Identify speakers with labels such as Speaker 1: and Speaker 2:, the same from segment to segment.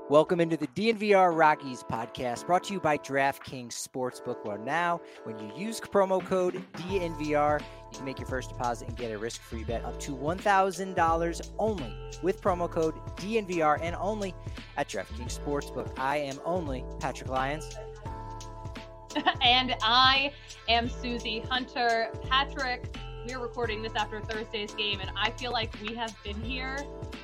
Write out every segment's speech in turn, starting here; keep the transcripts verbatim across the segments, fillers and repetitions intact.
Speaker 1: Welcome into the D N V R Rockies podcast, brought to you by DraftKings Sportsbook. Well, now, when you use promo code D N V R, you can make your first deposit and get a risk-free bet up to one thousand dollars only with promo code D N V R and only at DraftKings Sportsbook. I am only Patrick Lyons.
Speaker 2: And I am Susie Hunter. Patrick, we're recording this after Thursday's game, and I feel like we have been here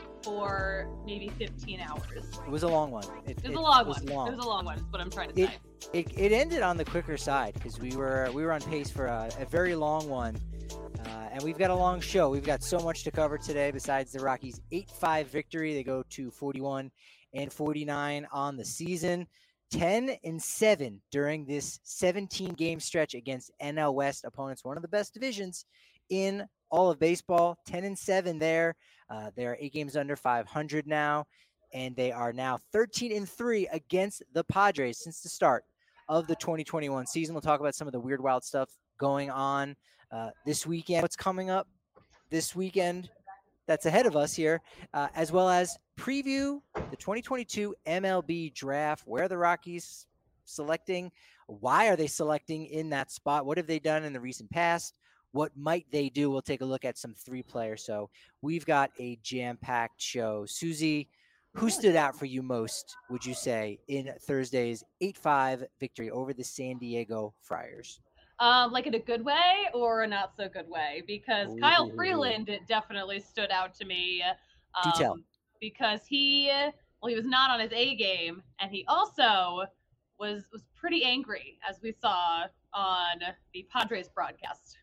Speaker 2: for maybe fifteen hours.
Speaker 1: It was a long one.
Speaker 2: It, it was a long was one. Long. It was a long one, is what I'm trying to
Speaker 1: it,
Speaker 2: say.
Speaker 1: It, it ended on the quicker side because we were we were on pace for a, a very long one. Uh, and we've got a long show. We've got so much to cover today besides the Rockies' eight five victory. They go to forty-one and forty-nine on the season. ten and seven during this seventeen game stretch against N L West opponents, one of the best divisions in all of baseball. ten and seven there. Uh, they are eight games under five hundred now, and they are now thirteen and three against the Padres since the start of the twenty twenty-one season. We'll talk about some of the weird, wild stuff going on uh, this weekend, what's coming up this weekend that's ahead of us here, uh, as well as preview the twenty twenty-two M L B draft. Where are the Rockies selecting? Why are they selecting in that spot? What have they done in the recent past? What might they do? We'll take a look at some three players. So we've got a jam-packed show. Susie, who stood out for you most, would you say, in Thursday's eight five victory over the San Diego Friars?
Speaker 2: Um, like in a good way or a not so good way? Because Ooh. Kyle Freeland definitely stood out to me.
Speaker 1: Um, Do tell.
Speaker 2: Because he, well, he was not on his A game, and he also was was pretty angry, as we saw on the Padres broadcast.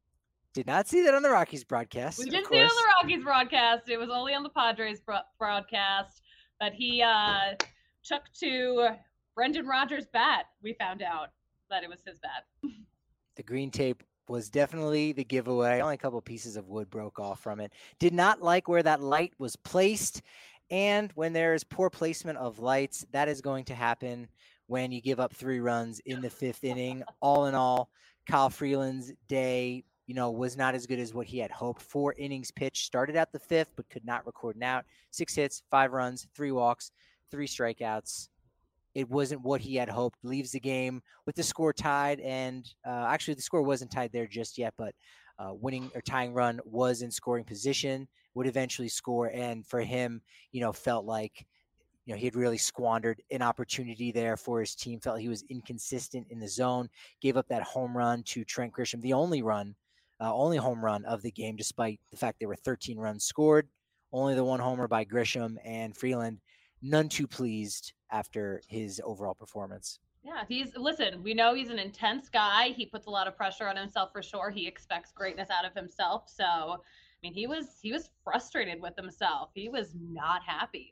Speaker 1: Did not see that on the Rockies broadcast.
Speaker 2: We didn't see it on the Rockies broadcast. It was only on the Padres broadcast. But he uh, took to Brendan Rodgers' bat. We found out that it was his bat.
Speaker 1: The green tape was definitely the giveaway. Only a couple pieces of wood broke off from it. Did not like where that light was placed. And when there is poor placement of lights, that is going to happen when you give up three runs in the fifth inning. All in all, Kyle Freeland's day, you know, was not as good as what he had hoped. Four innings pitched, started out the fifth, but could not record an out. Six hits, five runs, three walks, three strikeouts. It wasn't what he had hoped. Leaves the game with the score tied, and uh, actually the score wasn't tied there just yet, but uh, winning or tying run was in scoring position, would eventually score, and for him, you know, felt like, you know, he had really squandered an opportunity there for his team, felt he was inconsistent in the zone, gave up that home run to Trent Grisham, the only run Uh, only home run of the game, despite the fact there were thirteen runs scored. Only the one homer by Grisham, and Freeland none too pleased after his overall performance.
Speaker 2: Yeah, he's listen, we know he's an intense guy. He puts a lot of pressure on himself for sure. He expects greatness out of himself. So, I mean, he was he was frustrated with himself. He was not happy.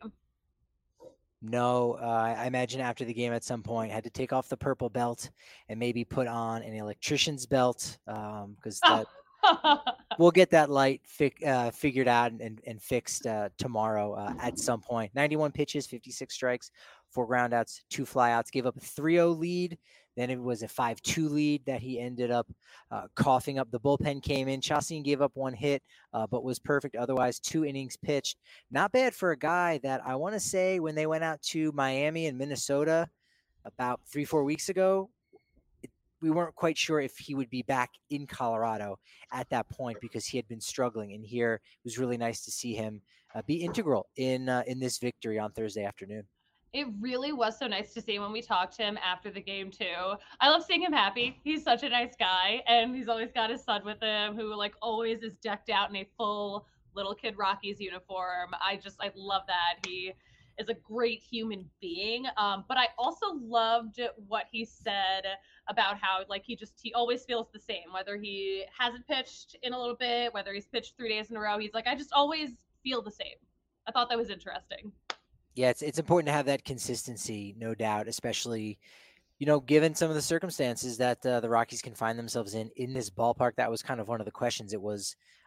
Speaker 1: No, uh, I imagine after the game at some point had to take off the purple belt and maybe put on an electrician's belt because um, we'll get that light fi- uh, figured out and, and fixed uh, tomorrow uh, at some point. ninety-one pitches, fifty-six strikes, four groundouts, two flyouts, gave up a three oh lead. Then it was a five two lead that he ended up uh, coughing up. The bullpen came in. Chassin gave up one hit, uh, but was perfect. Otherwise, two innings pitched. Not bad for a guy that I want to say when they went out to Miami and Minnesota about three, four weeks ago, it, we weren't quite sure if he would be back in Colorado at that point because he had been struggling. And here it was really nice to see him uh, be integral in uh, in this victory on Thursday afternoon.
Speaker 2: It really was so nice to see when we talked to him after the game too. I love seeing him happy. He's such a nice guy, and he's always got his son with him who like always is decked out in a full little kid Rockies uniform. I just, I love that. He is a great human being. Um, but I also loved what he said about how like he just, he always feels the same, whether he hasn't pitched in a little bit, whether he's pitched three days in a row. He's like, I just always feel the same. I thought that was interesting.
Speaker 1: Yeah, it's it's important to have that consistency, no doubt, especially, you know, given some of the circumstances that uh, the Rockies can find themselves in in this ballpark. That was kind of one of the questions. It was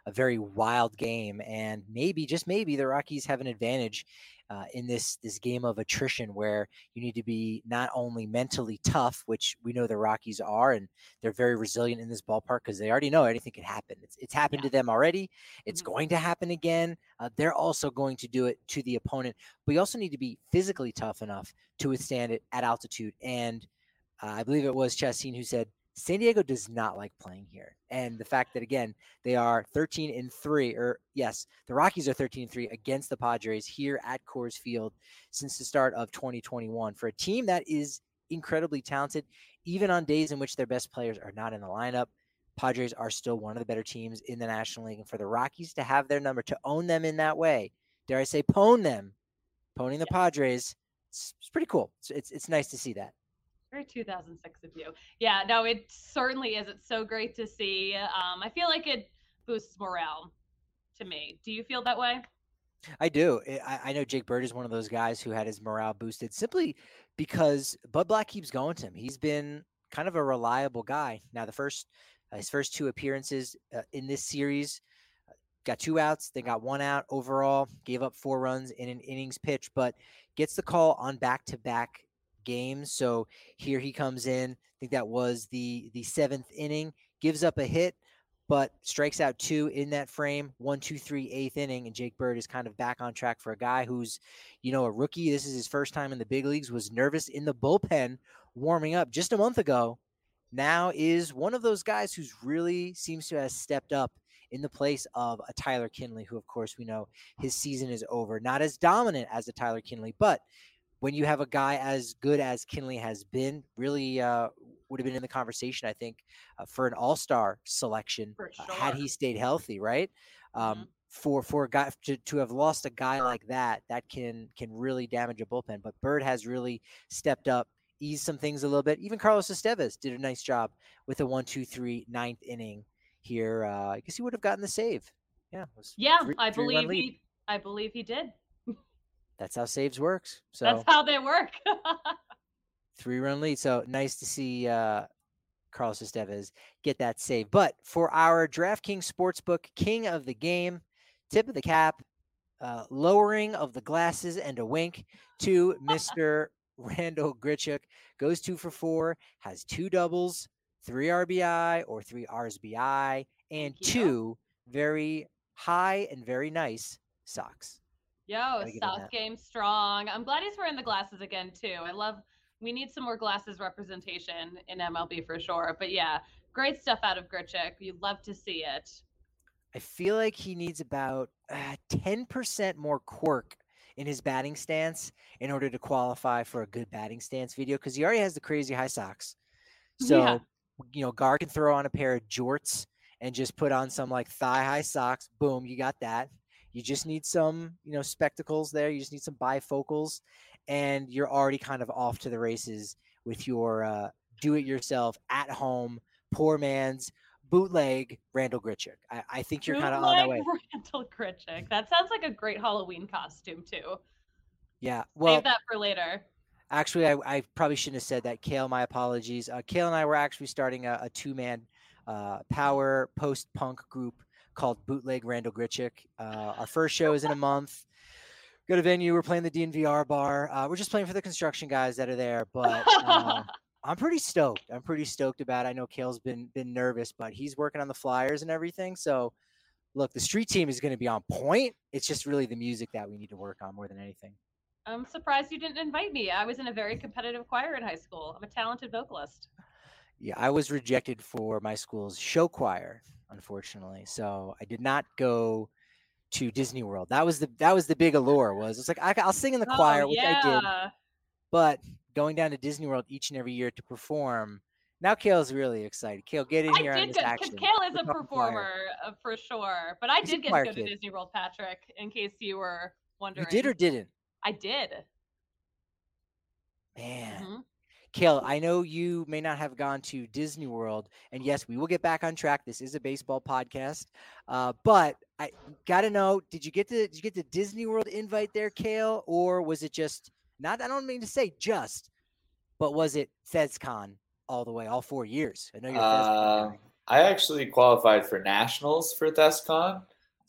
Speaker 1: a very wild game, and maybe just maybe the Rockies have an advantage uh, in this this game of attrition, where you need to be not only mentally tough, which we know the Rockies are, and they're very resilient in this ballpark because they already know anything can happen. It's it's happened
Speaker 2: Yeah.
Speaker 1: to them already. It's
Speaker 2: Mhm.
Speaker 1: going to happen again. Uh, they're also going to do it to the opponent, but you also need to be physically tough enough to withstand it at altitude. And uh, I believe it was Chastain who said San Diego does not like playing here. And the fact that, again, they are thirteen and three, or yes, the Rockies are thirteen and three against the Padres here at Coors Field since the start of twenty twenty-one, for a team that is incredibly talented, even on days in which their best players are not in the lineup. Padres are still one of the better teams in the National League. And for the Rockies to have their number, to own them in that way, dare I say, pwn them, pwning the
Speaker 2: Yes.
Speaker 1: Padres, it's, it's pretty cool. It's, it's it's nice to see that.
Speaker 2: Very two thousand six of you. Yeah, no, it certainly is. It's so great to see. Um, I feel like it boosts morale to me. Do you feel that way?
Speaker 1: I do. I, I know Jake Bird is one of those guys who had his morale boosted simply because Bud Black keeps going to him. He's been kind of a reliable guy. Now, the first uh, his first two appearances uh, in this series, got two outs, then got one out overall, gave up four runs in an innings pitch, but gets the call on back-to-back games. So here he comes in. I think that was the the seventh inning, gives up a hit, but strikes out two in that frame. One, two, three, eighth inning, and Jake Bird is kind of back on track for a guy who's, you know, a rookie. This is his first time in the big leagues, was nervous in the bullpen warming up just a month ago. Now is one of those guys who's really seems to have stepped up in the place of a Tyler Kinley, who, of course, we know his season is over. Not as dominant as a Tyler Kinley, but when you have a guy as good as Kinley has been, really uh, would have been in the conversation, I think, uh, for an all-star selection
Speaker 2: For
Speaker 1: uh,
Speaker 2: sure.
Speaker 1: had he stayed healthy, right? Um,
Speaker 2: Mhm.
Speaker 1: For for a guy to, to have lost a guy like that, that can can really damage a bullpen. But Bird has really stepped up, eased some things a little bit. Even Carlos Estevez did a nice job with a one, two, three, ninth inning here. Uh, I guess he would have gotten the save. Yeah, it was
Speaker 2: Yeah,
Speaker 1: three,
Speaker 2: I
Speaker 1: three run
Speaker 2: believe
Speaker 1: lead.
Speaker 2: he. I believe he did.
Speaker 1: That's how saves works. So
Speaker 2: That's how they work.
Speaker 1: three run lead. So nice to see uh, Carlos Estevez get that save. But for our DraftKings Sportsbook king of the game, tip of the cap, uh, lowering of the glasses and a wink to Mister Randal Grichuk. Goes two for four, has two doubles, three R B I or three R B I, and
Speaker 2: Thank you.
Speaker 1: two very high and very nice socks.
Speaker 2: Yo,
Speaker 1: Gotta give him
Speaker 2: South
Speaker 1: that.
Speaker 2: game strong. I'm glad he's wearing the glasses again too. I love. We need some more glasses representation in M L B for sure. But yeah, great stuff out of Grichuk. You'd love to see it.
Speaker 1: I feel like he needs about uh, ten percent more quirk in his batting stance in order to qualify for a good batting stance video, because he already has the crazy high socks. So,
Speaker 2: Yeah.
Speaker 1: you know, Gar can throw on a pair of jorts and just put on some like thigh high socks. Boom, you got that. You just need some, you know, spectacles there. You just need some bifocals, and you're already kind of off to the races with your uh, do it yourself at home, poor man's bootleg Randal Grichuk. I, I think you're kind of on that way.
Speaker 2: Bootleg Randal Grichuk. That sounds like a great Halloween costume too.
Speaker 1: Yeah. Well,
Speaker 2: Save that for later.
Speaker 1: Actually, I, I probably shouldn't have said that. Kale, my apologies. Uh, Kale and I were actually starting a, a two-man uh, power post-punk group called Bootleg Randal Grichuk. Uh, our first show is in a month. Go to venue. We're playing the D N V R bar. Uh, we're just playing for the construction guys that are there, but uh, I'm pretty stoked. I'm pretty stoked about it. I know Kale's been been nervous, but he's working on the flyers and everything. So, look, the street team is going to be on point. It's just really the music that we need to work on more than anything.
Speaker 2: I'm surprised you didn't invite me. I was in a very competitive choir in high school. I'm a talented vocalist.
Speaker 1: Yeah, I was rejected for my school's show choir, unfortunately. So I did not go to Disney World. That was the that was the big allure. Was it's like I, I'll sing in the
Speaker 2: Oh,
Speaker 1: choir, which
Speaker 2: yeah.
Speaker 1: I did, but going down to Disney World each and every year to perform. Now Kale's really excited. Kale, get in
Speaker 2: I
Speaker 1: here on
Speaker 2: did
Speaker 1: this
Speaker 2: go
Speaker 1: action.
Speaker 2: because Kale is
Speaker 1: We're
Speaker 2: a
Speaker 1: talking
Speaker 2: performer
Speaker 1: choir.
Speaker 2: uh, for sure. But I
Speaker 1: He's a
Speaker 2: did get
Speaker 1: choir
Speaker 2: to go
Speaker 1: kid.
Speaker 2: to Disney World, Patrick, in case you were wondering.
Speaker 1: You did or didn't?
Speaker 2: I did.
Speaker 1: Man.
Speaker 2: Mhm.
Speaker 1: Kale, I know you may not have gone to Disney World, and yes, we will get back on track. This is a baseball podcast, uh, but I got to know: did you get the did you get the Disney World invite there, Kale, or was it just not? I don't mean to say just, but was it FezCon all the way, all four years? I know you're a FezCon
Speaker 3: Uh,
Speaker 1: guy.
Speaker 3: I actually qualified for nationals for ThesCon.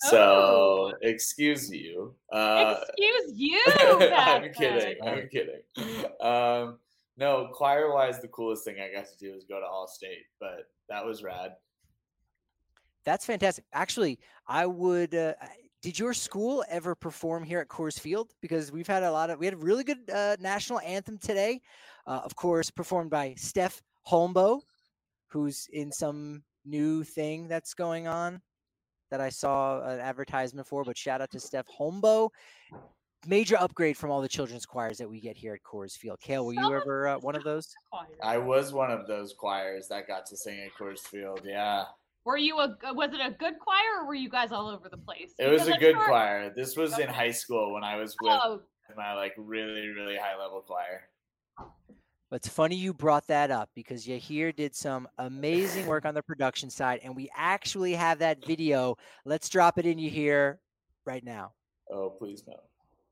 Speaker 2: Oh.
Speaker 3: So excuse you. Uh,
Speaker 2: Excuse you,
Speaker 3: I'm
Speaker 2: Patrick.
Speaker 3: kidding. I'm kidding. Um, no, choir wise, the coolest thing I got to do was go to All State, but that was rad.
Speaker 1: That's fantastic. Actually, I would. Uh, did your school ever perform here at Coors Field? Because we've had a lot of. We had a really good uh, national anthem today. Uh, of course, performed by Steph Holmbo, who's in some new thing that's going on that I saw an advertisement for. But shout out to Steph Holmbo. Major upgrade from all the children's choirs that we get here at Coors Field. Kale, were
Speaker 2: Some
Speaker 1: you
Speaker 2: of
Speaker 1: ever uh, one of those?
Speaker 3: I was one of those choirs that got to sing at Coors Field. Yeah.
Speaker 2: Were you a? Was it a good choir, or were you guys all over the place?
Speaker 3: It was
Speaker 2: Because
Speaker 3: a
Speaker 2: I'm
Speaker 3: good
Speaker 2: sure-
Speaker 3: choir. This was in
Speaker 2: Okay.
Speaker 3: high school when I was with
Speaker 2: Oh,
Speaker 3: my like really really high level choir.
Speaker 1: It's funny you brought that up because Yahir did some amazing work on the production side, and we actually have that video. Let's drop it in Yahir right now.
Speaker 3: Oh, please no.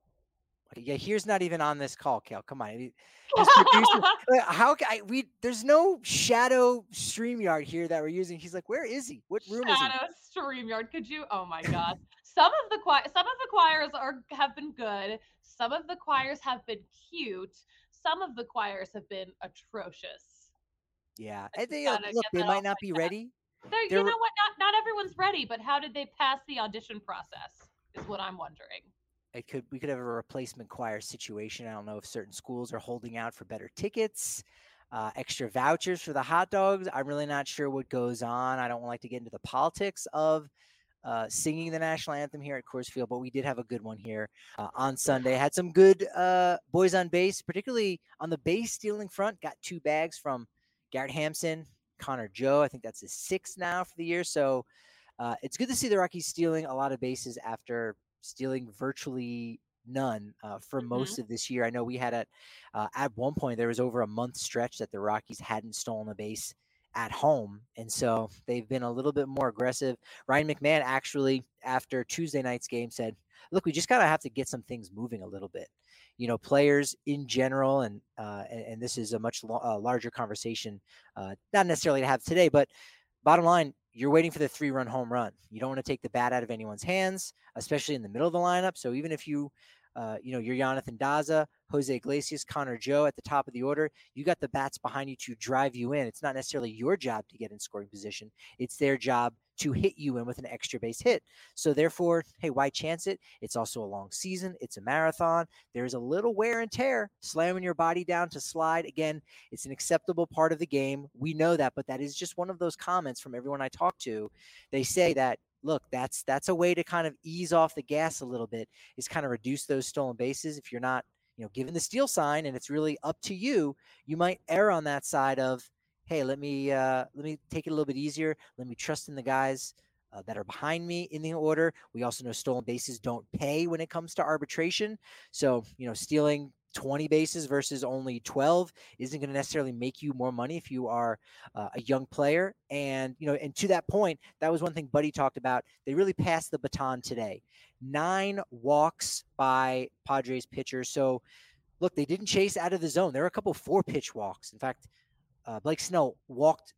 Speaker 1: Yahir's not even on this call, Kel. Come on. He- his producer- like, how can I, we? There's no shadow StreamYard here that we're using. He's like, where is he? What room is he?
Speaker 2: Shadow StreamYard. Could you? Oh my God. Some of the choir, some of the choirs are have been good. Some of the choirs have been cute. Some of the choirs have been atrocious.
Speaker 1: Yeah, and they
Speaker 2: gotta
Speaker 1: look.
Speaker 2: get
Speaker 1: They
Speaker 2: that
Speaker 1: might
Speaker 2: off
Speaker 1: not
Speaker 2: my
Speaker 1: be
Speaker 2: chest.
Speaker 1: ready.
Speaker 2: They're,
Speaker 1: There
Speaker 2: you
Speaker 1: were-
Speaker 2: know what? Not not everyone's ready, but how did they pass the audition process? Is what I'm wondering.
Speaker 1: It could we could have a replacement choir situation. I don't know if certain schools are holding out for better tickets, uh, extra vouchers for the hot dogs. I'm really not sure what goes on. I don't like to get into the politics of uh, singing the national anthem here at Coors Field, but we did have a good one here uh, on Sunday. Had some good uh, boys on base, particularly on the base stealing front. Got two bags from Garrett Hampson, Connor Joe. I think that's his sixth now for the year. So uh, it's good to see the Rockies stealing a lot of bases after stealing virtually none uh, for
Speaker 2: Mhm.
Speaker 1: most of this year. I know we had at uh, at one point there was over a month stretch that the Rockies hadn't stolen a base at home, and so they've been a little bit more aggressive. Ryan McMahon actually after Tuesday night's game said, "Look, we just gotta have to get some things moving a little bit." You know, players in general, and uh, and, and this is a much lo- uh, larger conversation, uh, not necessarily to have today, but bottom line, you're waiting for the three-run home run. You don't want to take the bat out of anyone's hands, especially in the middle of the lineup. So even if you, uh, you know, you're Jonathan Daza, Jose Iglesias, Connor Joe at the top of the order, you got the bats behind you to drive you in. It's not necessarily your job to get in scoring position. It's their job to hit you in with an extra base hit. So therefore, hey, why chance it? It's also a long season. It's a marathon. There's a little wear and tear, slamming your body down to slide. Again, it's an acceptable part of the game. We know that, but that is just one of those comments from everyone I talk to. They say that, look, that's that's a way to kind of ease off the gas a little bit, is kind of reduce those stolen bases. If you're not, you know, given the steal sign and it's really up to you, you might err on that side of, hey, let me uh, let me take it a little bit easier. Let me trust in the guys uh, that are behind me in the order. We also know stolen bases don't pay when it comes to arbitration. So, you know, stealing twenty bases versus only twelve isn't going to necessarily make you more money if you are uh, a young player. And, you know, and to that point, that was one thing Buddy talked about. They really passed the baton today. Nine walks by Padres pitchers. So, look, they didn't chase out of the zone. There were a couple four pitch walks. In fact, uh, Blake Snell walked,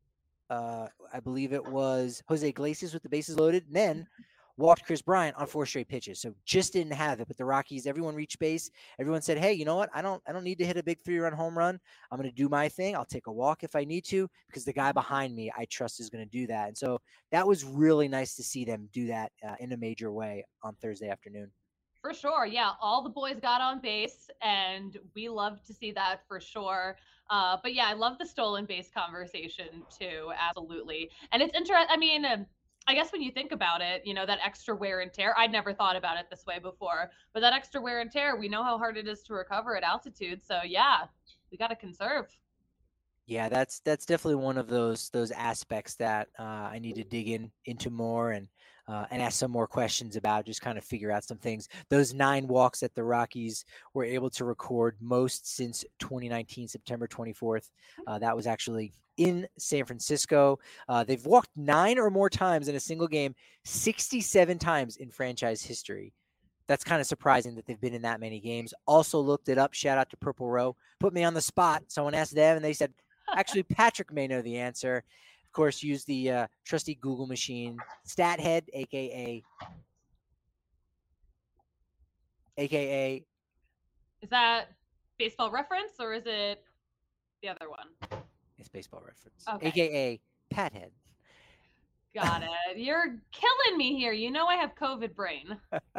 Speaker 1: uh, I believe it was Jose Iglesias with the bases loaded, and then walked Chris Bryant on four straight pitches. So just didn't have it. But the Rockies, everyone reached base. Everyone said, hey, you know what? I don't I don't need to hit a big three-run home run. I'm going to do my thing. I'll take a walk if I need to because the guy behind me I trust is going to do that. And so that was really nice to see them do that uh, in a major way on Thursday afternoon.
Speaker 2: For sure. Yeah. All the boys got on base, and we love to see that for sure. Uh, but yeah, I love the stolen base conversation too. Absolutely. And it's interesting. I mean, um, I guess when you think about it, you know, that extra wear and tear, I'd never thought about it this way before, but that extra wear and tear, we know how hard it is to recover at altitude. So yeah, we got to conserve.
Speaker 1: Yeah, that's that's definitely one of those those aspects that uh, I need to dig in into more and uh, and ask some more questions about. Just kind of figure out some things. Those nine walks that the Rockies were able to record, most since twenty nineteen, September twenty-fourth. Uh, that was actually in San Francisco. Uh, they've walked nine or more times in a single game, sixty-seven times in franchise history. That's kind of surprising that they've been in that many games. Also looked it up. Shout out to Purple Row. Put me on the spot. Someone asked them, and they said, actually, Patrick may know the answer. Of course, use the uh, trusty Google machine, StatHead, aka aka
Speaker 2: Is that baseball reference or is it the other one?
Speaker 1: it's baseball reference,
Speaker 2: Okay.
Speaker 1: aka Pathead.
Speaker 2: Got it. You're killing me here. You know I have COVID brain.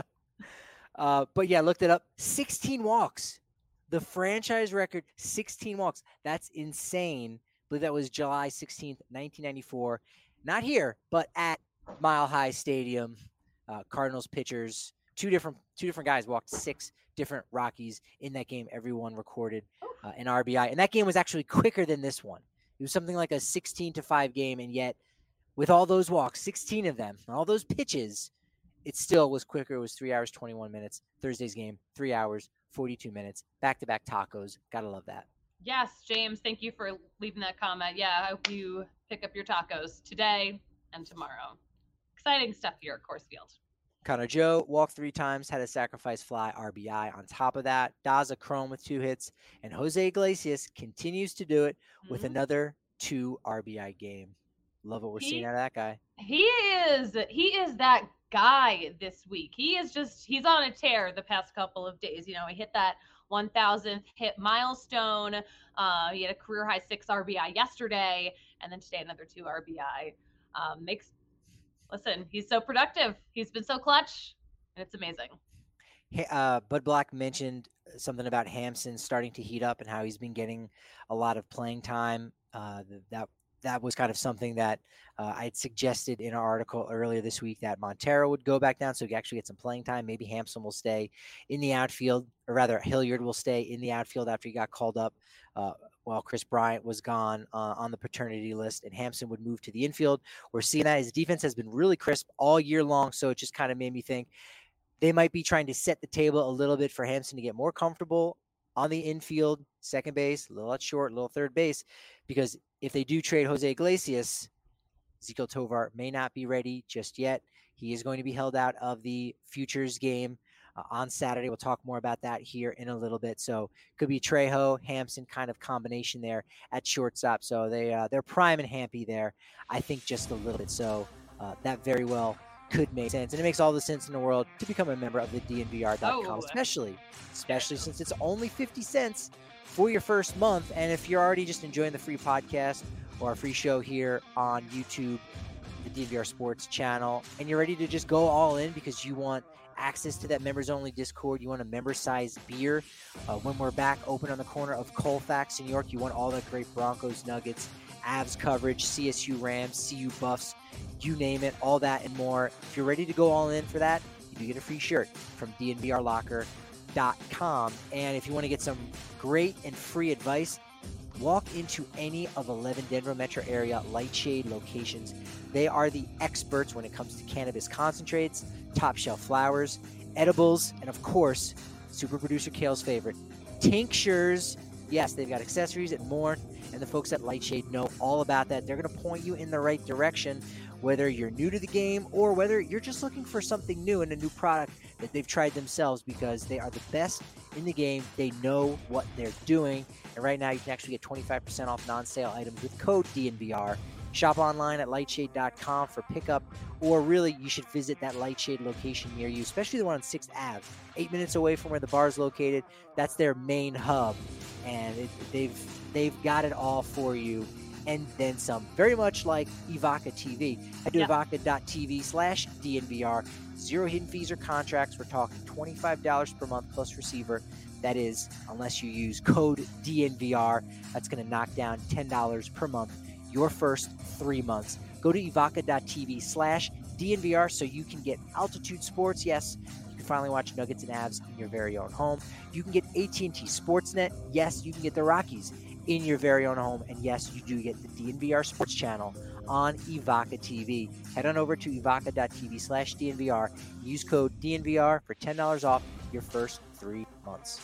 Speaker 1: uh, but yeah, looked it up. sixteen walks. The franchise record, sixteen walks. That's insane. I believe that was July sixteenth, nineteen ninety-four. Not here, but at Mile High Stadium. Uh, Cardinals pitchers, two different two different guys walked six different Rockies in that game. Everyone recorded uh, an R B I. And that game was actually quicker than this one. It was something like a sixteen to five game, and yet with all those walks, sixteen of them, all those pitches, it still was quicker. It was three hours, twenty-one minutes. Thursday's game, three hours, forty-two minutes. Back-to-back tacos. Gotta love that.
Speaker 2: Yes, James, thank you for leaving that comment. Yeah, I hope you pick up your tacos today and tomorrow. Exciting stuff here at Coors Field.
Speaker 1: Connor Joe walked three times, had a sacrifice fly R B I on top of that. Daza Chrome with two hits, and Jose Iglesias continues to do it with
Speaker 2: Mhm.
Speaker 1: another two R B I game. Love what we're
Speaker 2: He-
Speaker 1: seeing out of that guy.
Speaker 2: He is he is that guy this week. He is just he's on a tear the past couple of days. You know, he hit that one thousandth hit milestone. Uh, he had a career high six R B I yesterday, and then today another two R B I. Um, makes listen, he's so productive. He's been so clutch, and it's amazing.
Speaker 1: Hey, uh, Bud Black mentioned something about Hampson starting to heat up and how he's been getting a lot of playing time. Uh, th- that that was kind of something that uh, I had suggested in our article earlier this week, that Montero would go back down so he could actually get some playing time. Maybe Hampson will stay in the outfield, or rather Hilliard will stay in the outfield after he got called up uh, while Chris Bryant was gone uh, on the paternity list, and Hampson would move to the infield. We're seeing that his defense has been really crisp all year long, so it just kind of made me think they might be trying to set the table a little bit for Hampson to get more comfortable on the infield, second base, a little at short, a little third base, because if they do trade Jose Iglesias, Ezequiel Tovar may not be ready just yet. He is going to be held out of the Futures game uh, on Saturday. We'll talk more about that here in a little bit. So could be Trejo, Hampson kind of combination there at shortstop. So they, uh, they're prime and Hampy there, I think, just a little bit. So uh, that very well could make sense. And it makes all the sense in the world to become a member of the D N V R dot com,
Speaker 2: Oh.
Speaker 1: especially, especially since it's only fifty cents for your first month. And if you're already just enjoying the free podcast or our free show here on YouTube, the D N V R Sports channel, and you're ready to just go all in because you want access to that members only Discord, you want a member sized beer uh, when we're back open on the corner of Colfax, New York, you want all that great Broncos, Nuggets, Avs coverage, C S U Rams, C U Buffs, you name it, all that and more. If you're ready to go all in for that, you do get a free shirt from D N V R locker dot com. And if you want to get some great and free advice, walk into any of eleven Denver metro area Lightshade locations. They are the experts when it comes to cannabis concentrates, top shelf flowers, edibles, and of course, super producer Kale's favorite, tinctures. Yes, they've got accessories and more, and the folks at Lightshade know all about that. They're going to point you in the right direction, whether you're new to the game or whether you're just looking for something new and a new product that they've tried themselves, because they are the best in the game. They know what they're doing. And right now you can actually get twenty-five percent off non-sale items with code D N V R. Shop online at lightshade dot com for pickup, or really you should visit that Lightshade location near you, especially the one on sixth Avenue, eight minutes away from where the bar is located. That's their main hub, and it, they've they've got it all for you and then some. Very much like Evoca T V. Head to
Speaker 2: Yeah.
Speaker 1: evoca dot t v slash D N V R. Zero hidden fees or contracts. We're talking twenty-five dollars per month plus receiver. That is, unless you use code D N V R, that's going to knock down ten dollars per month your first three months. Go to evoca dot t v slash D N V R so you can get Altitude Sports. Yes, you can finally watch Nuggets and Avs in your very own home. You can get A T and T Sportsnet. Yes, you can get the Rockies in your very own home. And yes, you do get the D N V R Sports channel on Evoca T V. Head on over to evoca dot t v slash D N V R. Use code D N V R for ten dollars off your first three months.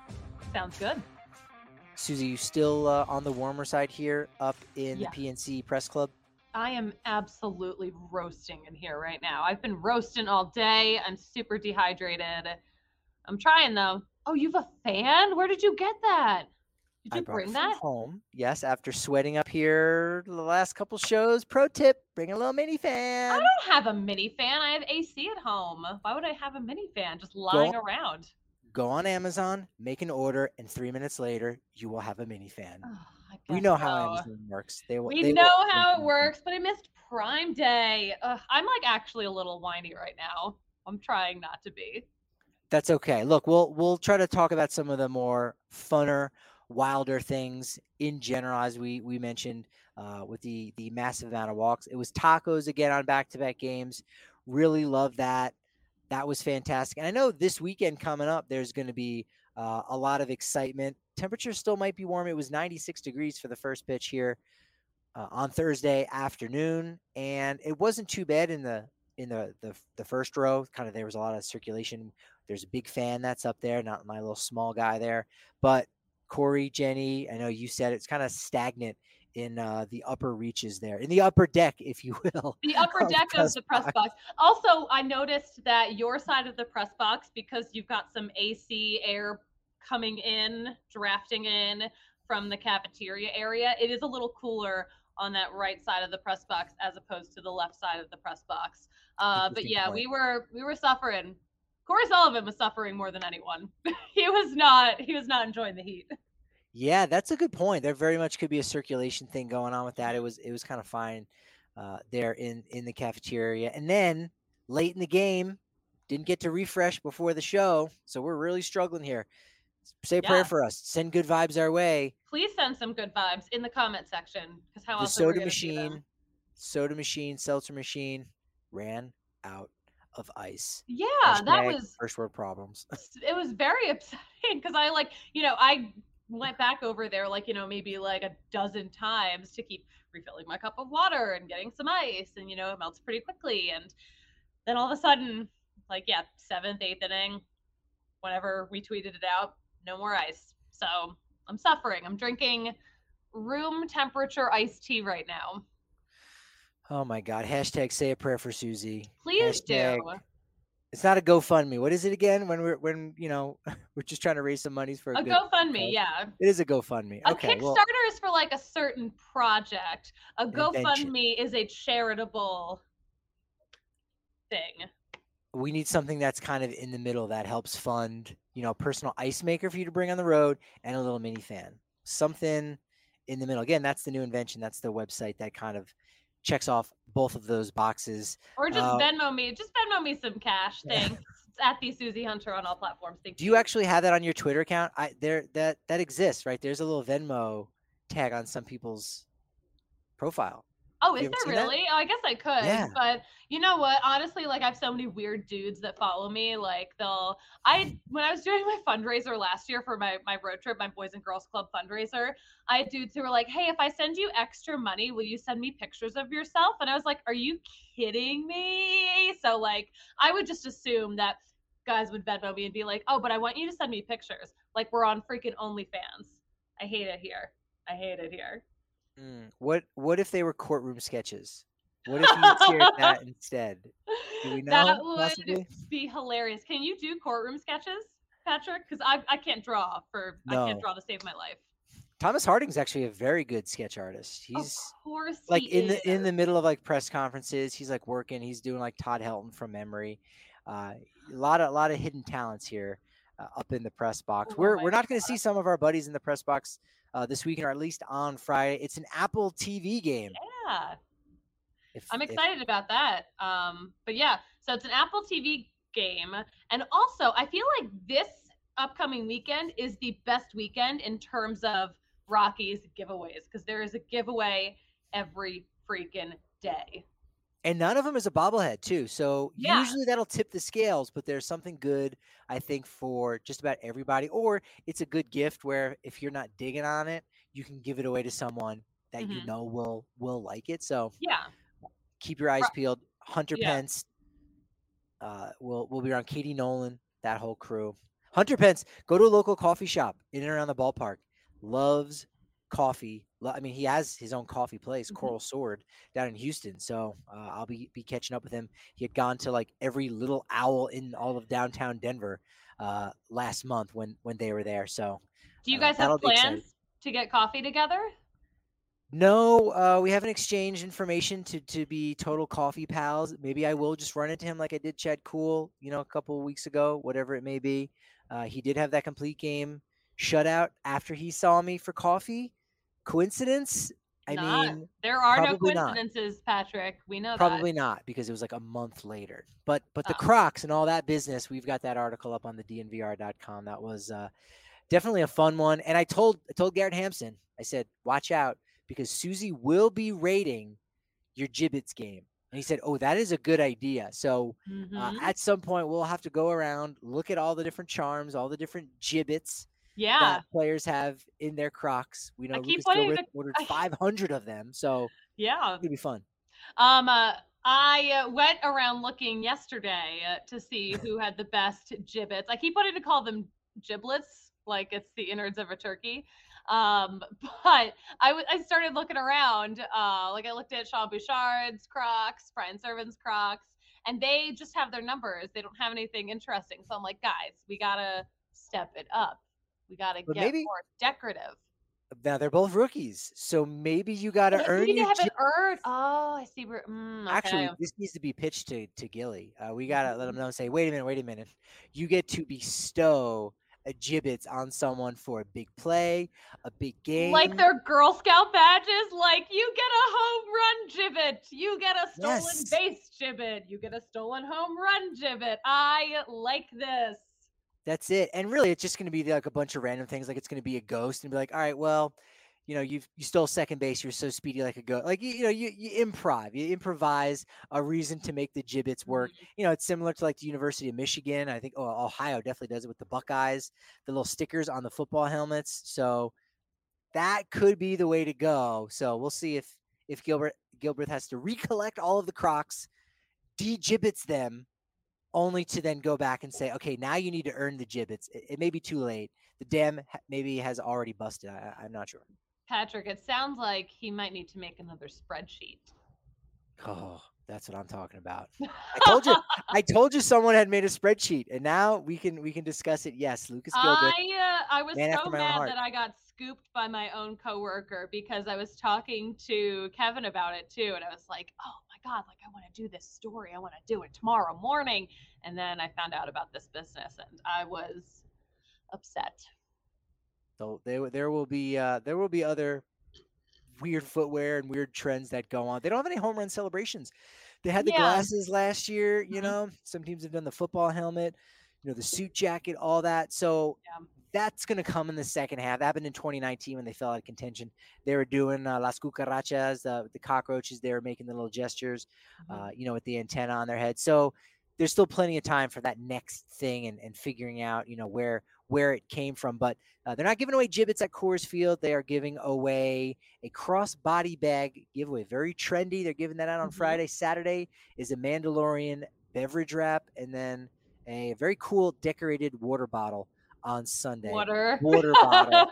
Speaker 2: Sounds good.
Speaker 1: Susie, you still uh, on the warmer side here up in
Speaker 2: Yeah.
Speaker 1: the P N C Press Club?
Speaker 2: I am absolutely roasting in here right now. I've been roasting all day. I'm super dehydrated. I'm trying though. Oh, you have a fan? Where did you get that? Did
Speaker 1: I
Speaker 2: you
Speaker 1: brought it
Speaker 2: bring
Speaker 1: from
Speaker 2: that?
Speaker 1: home. Yes, after sweating up here the last couple shows. Pro tip: bring a little mini
Speaker 2: I
Speaker 1: fan.
Speaker 2: don't have a mini fan. I have A C at home. Why would I have a mini fan just lying
Speaker 1: Go,
Speaker 2: around?
Speaker 1: go on Amazon, make an order, and three minutes later you will have a mini fan.
Speaker 2: Oh, I
Speaker 1: We
Speaker 2: guess
Speaker 1: know how
Speaker 2: so.
Speaker 1: Amazon works. They will.
Speaker 2: We
Speaker 1: They
Speaker 2: know
Speaker 1: will
Speaker 2: how it works, but I missed Prime Day. Ugh, I'm like actually a little whiny right now. I'm trying not to be.
Speaker 1: That's okay. Look, we'll we'll try to talk about some of the more funner, wilder things in general, as we we mentioned uh, with the the massive amount of walks. It was tacos again on back to back games. Really love that. That was fantastic. And I know this weekend coming up, there's going to be uh, a lot of excitement. Temperature still might be warm. It was ninety-six degrees for the first pitch here uh, on Thursday afternoon, and it wasn't too bad in the in the, the the first row. Kind of there was a lot of circulation. There's a big fan that's up there, not my little small guy there. But Corey, Jenny, I know you said it's kind of stagnant in uh, the upper reaches there, in the upper deck, if you will.
Speaker 2: The upper
Speaker 1: of
Speaker 2: deck
Speaker 1: press
Speaker 2: of the press
Speaker 1: box.
Speaker 2: box. Also, I noticed that your side of the press box, because you've got some A C air coming in, drafting in from the cafeteria area, it is a little cooler on that right side of the press box as opposed to the left side of the press box. Uh, but
Speaker 1: Interesting
Speaker 2: yeah,
Speaker 1: point.
Speaker 2: we were we were suffering. Corey Sullivan was suffering more than anyone. he was not he was not enjoying the heat.
Speaker 1: Yeah, that's a good point. There very much could be a circulation thing going on with that. It was it was kind of fine uh, there in in the cafeteria, and then late in the game, didn't get to refresh before the show, so we're really struggling here. Say a prayer
Speaker 2: Yeah.
Speaker 1: for us. Send good vibes our way.
Speaker 2: Please send some good vibes in the comment section, because how
Speaker 1: The
Speaker 2: else are we
Speaker 1: soda
Speaker 2: going to do them?
Speaker 1: machine, soda machine, seltzer machine ran out of ice.
Speaker 2: Yeah, that
Speaker 1: Hashtag
Speaker 2: was
Speaker 1: first world problems.
Speaker 2: it was very upsetting because I like, you know, I went back over there like, you know, maybe like a dozen times to keep refilling my cup of water and getting some ice, and you know, it melts pretty quickly. And then all of a sudden, like, yeah, seventh, eighth inning, whenever we tweeted it out, no more ice. So I'm suffering. I'm drinking room temperature iced tea right now.
Speaker 1: Oh my God. Hashtag say a prayer for Susie.
Speaker 2: Please
Speaker 1: Hashtag,
Speaker 2: do.
Speaker 1: it's not a GoFundMe. What is it again? When we're when you know we're just trying to raise some monies for a,
Speaker 2: A
Speaker 1: good
Speaker 2: GoFundMe,
Speaker 1: cause?
Speaker 2: yeah.
Speaker 1: It is a GoFundMe.
Speaker 2: A
Speaker 1: Okay,
Speaker 2: Kickstarter
Speaker 1: well,
Speaker 2: is for like a certain project. A
Speaker 1: Invention.
Speaker 2: GoFundMe is a charitable thing.
Speaker 1: we need something that's kind of in the middle that helps fund, you know, a personal ice maker for you to bring on the road and a little mini fan. Something in the middle. Again, that's the new invention. That's the website that kind of checks off both of those boxes.
Speaker 2: Or just
Speaker 1: Uh,
Speaker 2: Venmo me. Just Venmo me some cash.
Speaker 1: Yeah.
Speaker 2: Thanks. It's at the Susie Hunter on all platforms. Thank
Speaker 1: Do you actually have that on your Twitter account? I there that that exists, right? There's a little Venmo tag on some people's profile.
Speaker 2: Oh,
Speaker 1: You
Speaker 2: is
Speaker 1: ever
Speaker 2: there
Speaker 1: seen that?
Speaker 2: really? Oh, I guess I could.
Speaker 1: Yeah.
Speaker 2: But you know what? Honestly, like I have so many weird dudes that follow me. Like they'll I when I was doing my fundraiser last year for my my road trip, my Boys and Girls Club fundraiser, I had dudes who were like, "Hey, if I send you extra money, will you send me pictures of yourself?" And I was like, "Are you kidding me?" So like I would just assume that guys would Venmo me and be like, "Oh, but I want you to send me pictures." Like we're on freaking OnlyFans. I hate it here. I hate it here.
Speaker 1: Mm, What what if they were courtroom sketches? What if you shared that instead? Do we
Speaker 2: That
Speaker 1: know?
Speaker 2: would
Speaker 1: Possibly?
Speaker 2: be hilarious. Can you do courtroom sketches, Patrick? Because I I can't draw for I can't
Speaker 1: No.
Speaker 2: draw to save my life.
Speaker 1: Thomas Harding's actually a very good sketch artist. He's
Speaker 2: Of course
Speaker 1: like
Speaker 2: he
Speaker 1: in the in
Speaker 2: is.
Speaker 1: the middle of like press conferences. He's like working. He's doing like Todd Helton from memory. Uh, a lot of a lot of hidden talents here uh, up in the press box.
Speaker 2: Oh
Speaker 1: We're
Speaker 2: my
Speaker 1: we're not going to see some of our buddies in the press box uh, this weekend, or at least on Friday. It's an Apple T V game.
Speaker 2: Yeah,
Speaker 1: If,
Speaker 2: I'm
Speaker 1: if-
Speaker 2: excited about that. Um, but yeah, so it's an Apple T V game, and also I feel like this upcoming weekend is the best weekend in terms of Rockies giveaways because there is a giveaway every freaking day.
Speaker 1: and none of them is a bobblehead too. So
Speaker 2: Yeah.
Speaker 1: usually that'll tip the scales, but there's something good, I think, for just about everybody. Or it's a good gift where if you're not digging on it, you can give it away to someone that you
Speaker 2: Mhm.
Speaker 1: know will will like it. So
Speaker 2: Yeah.
Speaker 1: keep your eyes
Speaker 2: Ro-
Speaker 1: peeled. Hunter
Speaker 2: Yeah.
Speaker 1: Pence, uh, will will be around. Katie Nolan, that whole crew. Hunter Pence, go to a local coffee shop in and around the ballpark. Loves coffee. Lo- I mean, he has his own coffee place,
Speaker 2: Mhm.
Speaker 1: Coral Sword, down in Houston. So uh, I'll be be catching up with him. He had gone to like every little owl in all of downtown Denver uh, last month when when they were there. So
Speaker 2: Do you
Speaker 1: uh,
Speaker 2: guys have
Speaker 1: that'll be exciting.
Speaker 2: plans? to get coffee together?
Speaker 1: No, uh, we haven't exchanged information to to be total coffee pals. Maybe I will just run into him like I did Chad Cool, you know, a couple of weeks ago, whatever it may be. Uh, he did have that complete game shutout after he saw me for coffee. Coincidence? I
Speaker 2: Not.
Speaker 1: mean,
Speaker 2: There are no
Speaker 1: probably not.
Speaker 2: coincidences, Patrick. We know that.
Speaker 1: Probably not because it was like a month later. But but the
Speaker 2: Oh.
Speaker 1: Crocs and all that business, we've got that article up on the D N V R dot com. That was uh, definitely a fun one. And I told I told Garrett Hampson, I said, watch out because Susie will be rating your Gibbets game. And he said, oh, that is a good idea. So uh,
Speaker 2: Mhm.
Speaker 1: at some point, we'll have to go around, look at all the different charms, all the different Gibbets
Speaker 2: Yeah.
Speaker 1: that players have in their Crocs. We know
Speaker 2: I keep
Speaker 1: Lucas
Speaker 2: wanting
Speaker 1: Gilbert
Speaker 2: to-
Speaker 1: ordered
Speaker 2: I-
Speaker 1: five hundred of them. So
Speaker 2: Yeah.
Speaker 1: it'll be fun.
Speaker 2: Um, uh, I uh, went around looking yesterday uh, to see who had the best gibbets. I keep wanting to call them giblets, like it's the innards of a turkey. Um, but I, w- I started looking around. Uh, like I looked at Sean Bouchard's Crocs, Brian Servan's Crocs, and they just have their numbers. They don't have anything interesting. So I'm like, guys, we gotta step it up. We gotta
Speaker 1: But
Speaker 2: get
Speaker 1: maybe-
Speaker 2: more decorative.
Speaker 1: Now they're both rookies, so maybe you got to
Speaker 2: Maybe
Speaker 1: earn
Speaker 2: they
Speaker 1: your.
Speaker 2: haven't
Speaker 1: Gib-
Speaker 2: earned. Oh, I see. Where, mm, okay.
Speaker 1: Actually, this needs to be pitched to to Gilly. Uh, we gotta let him know and say, wait a minute, wait a minute. You get to bestow a Gibbets on someone for a big play, a big game.
Speaker 2: Like their Girl Scout badges, like you get a home run gibbet, you get a stolen
Speaker 1: Yes.
Speaker 2: base gibbet, you get a stolen home run gibbet. I like this.
Speaker 1: That's it. And really, it's just going to be like a bunch of random things. Like it's going to be a ghost and be like, all right, well, you know, you you stole second base. You're so speedy like a ghost. Like, you, you know, you, you improv, you improvise a reason to make the Gibbets work.
Speaker 2: Mhm.
Speaker 1: You know, it's similar to like the University of Michigan. I think oh, Ohio definitely does it with the Buckeyes, the little stickers on the football helmets. So that could be the way to go. So we'll see if if Gilbert Gilbert has to recollect all of the Crocs, de-Gibbets them, only to then go back and say, okay, now you need to earn the Gibbets. It, it may be too late. The dam ha- maybe has already busted. I, I'm not sure.
Speaker 2: Patrick, it sounds like he might need to make another spreadsheet.
Speaker 1: Oh, that's what I'm talking about. I told you. I told you someone had made a spreadsheet, and now we can we can discuss it. Yes, Lucas Gilbert.
Speaker 2: I uh, I was
Speaker 1: man
Speaker 2: so
Speaker 1: after my own
Speaker 2: mad
Speaker 1: heart.
Speaker 2: that I got scooped by my own coworker because I was talking to Kevin about it too, and I was like, "Oh my god, like I want to do this story. I want to do it tomorrow morning." And then I found out about this business, and I was upset.
Speaker 1: So there there will be uh, there will be other weird footwear and weird trends that go on. They don't have any home run celebrations. They had the
Speaker 2: Yeah.
Speaker 1: glasses last year, you
Speaker 2: Mhm.
Speaker 1: know. Some teams have done the football helmet, you know, the suit jacket, all that. So
Speaker 2: Yeah.
Speaker 1: that's going to come in the second half. That happened in twenty nineteen when they fell out of contention. They were doing uh, las cucarachas, the, the cockroaches. They were making the little gestures, uh, you know, with the antenna on their head. So there's still plenty of time for that next thing and, and figuring out, you know, where where it came from. But uh, they're not giving away Gibbets at Coors Field. They are giving away a cross-body bag giveaway. Very trendy. They're giving that out on
Speaker 2: Mhm.
Speaker 1: Friday. Saturday is a Mandalorian beverage wrap, and then a very cool decorated water bottle on Sunday.
Speaker 2: Water.
Speaker 1: Water bottle.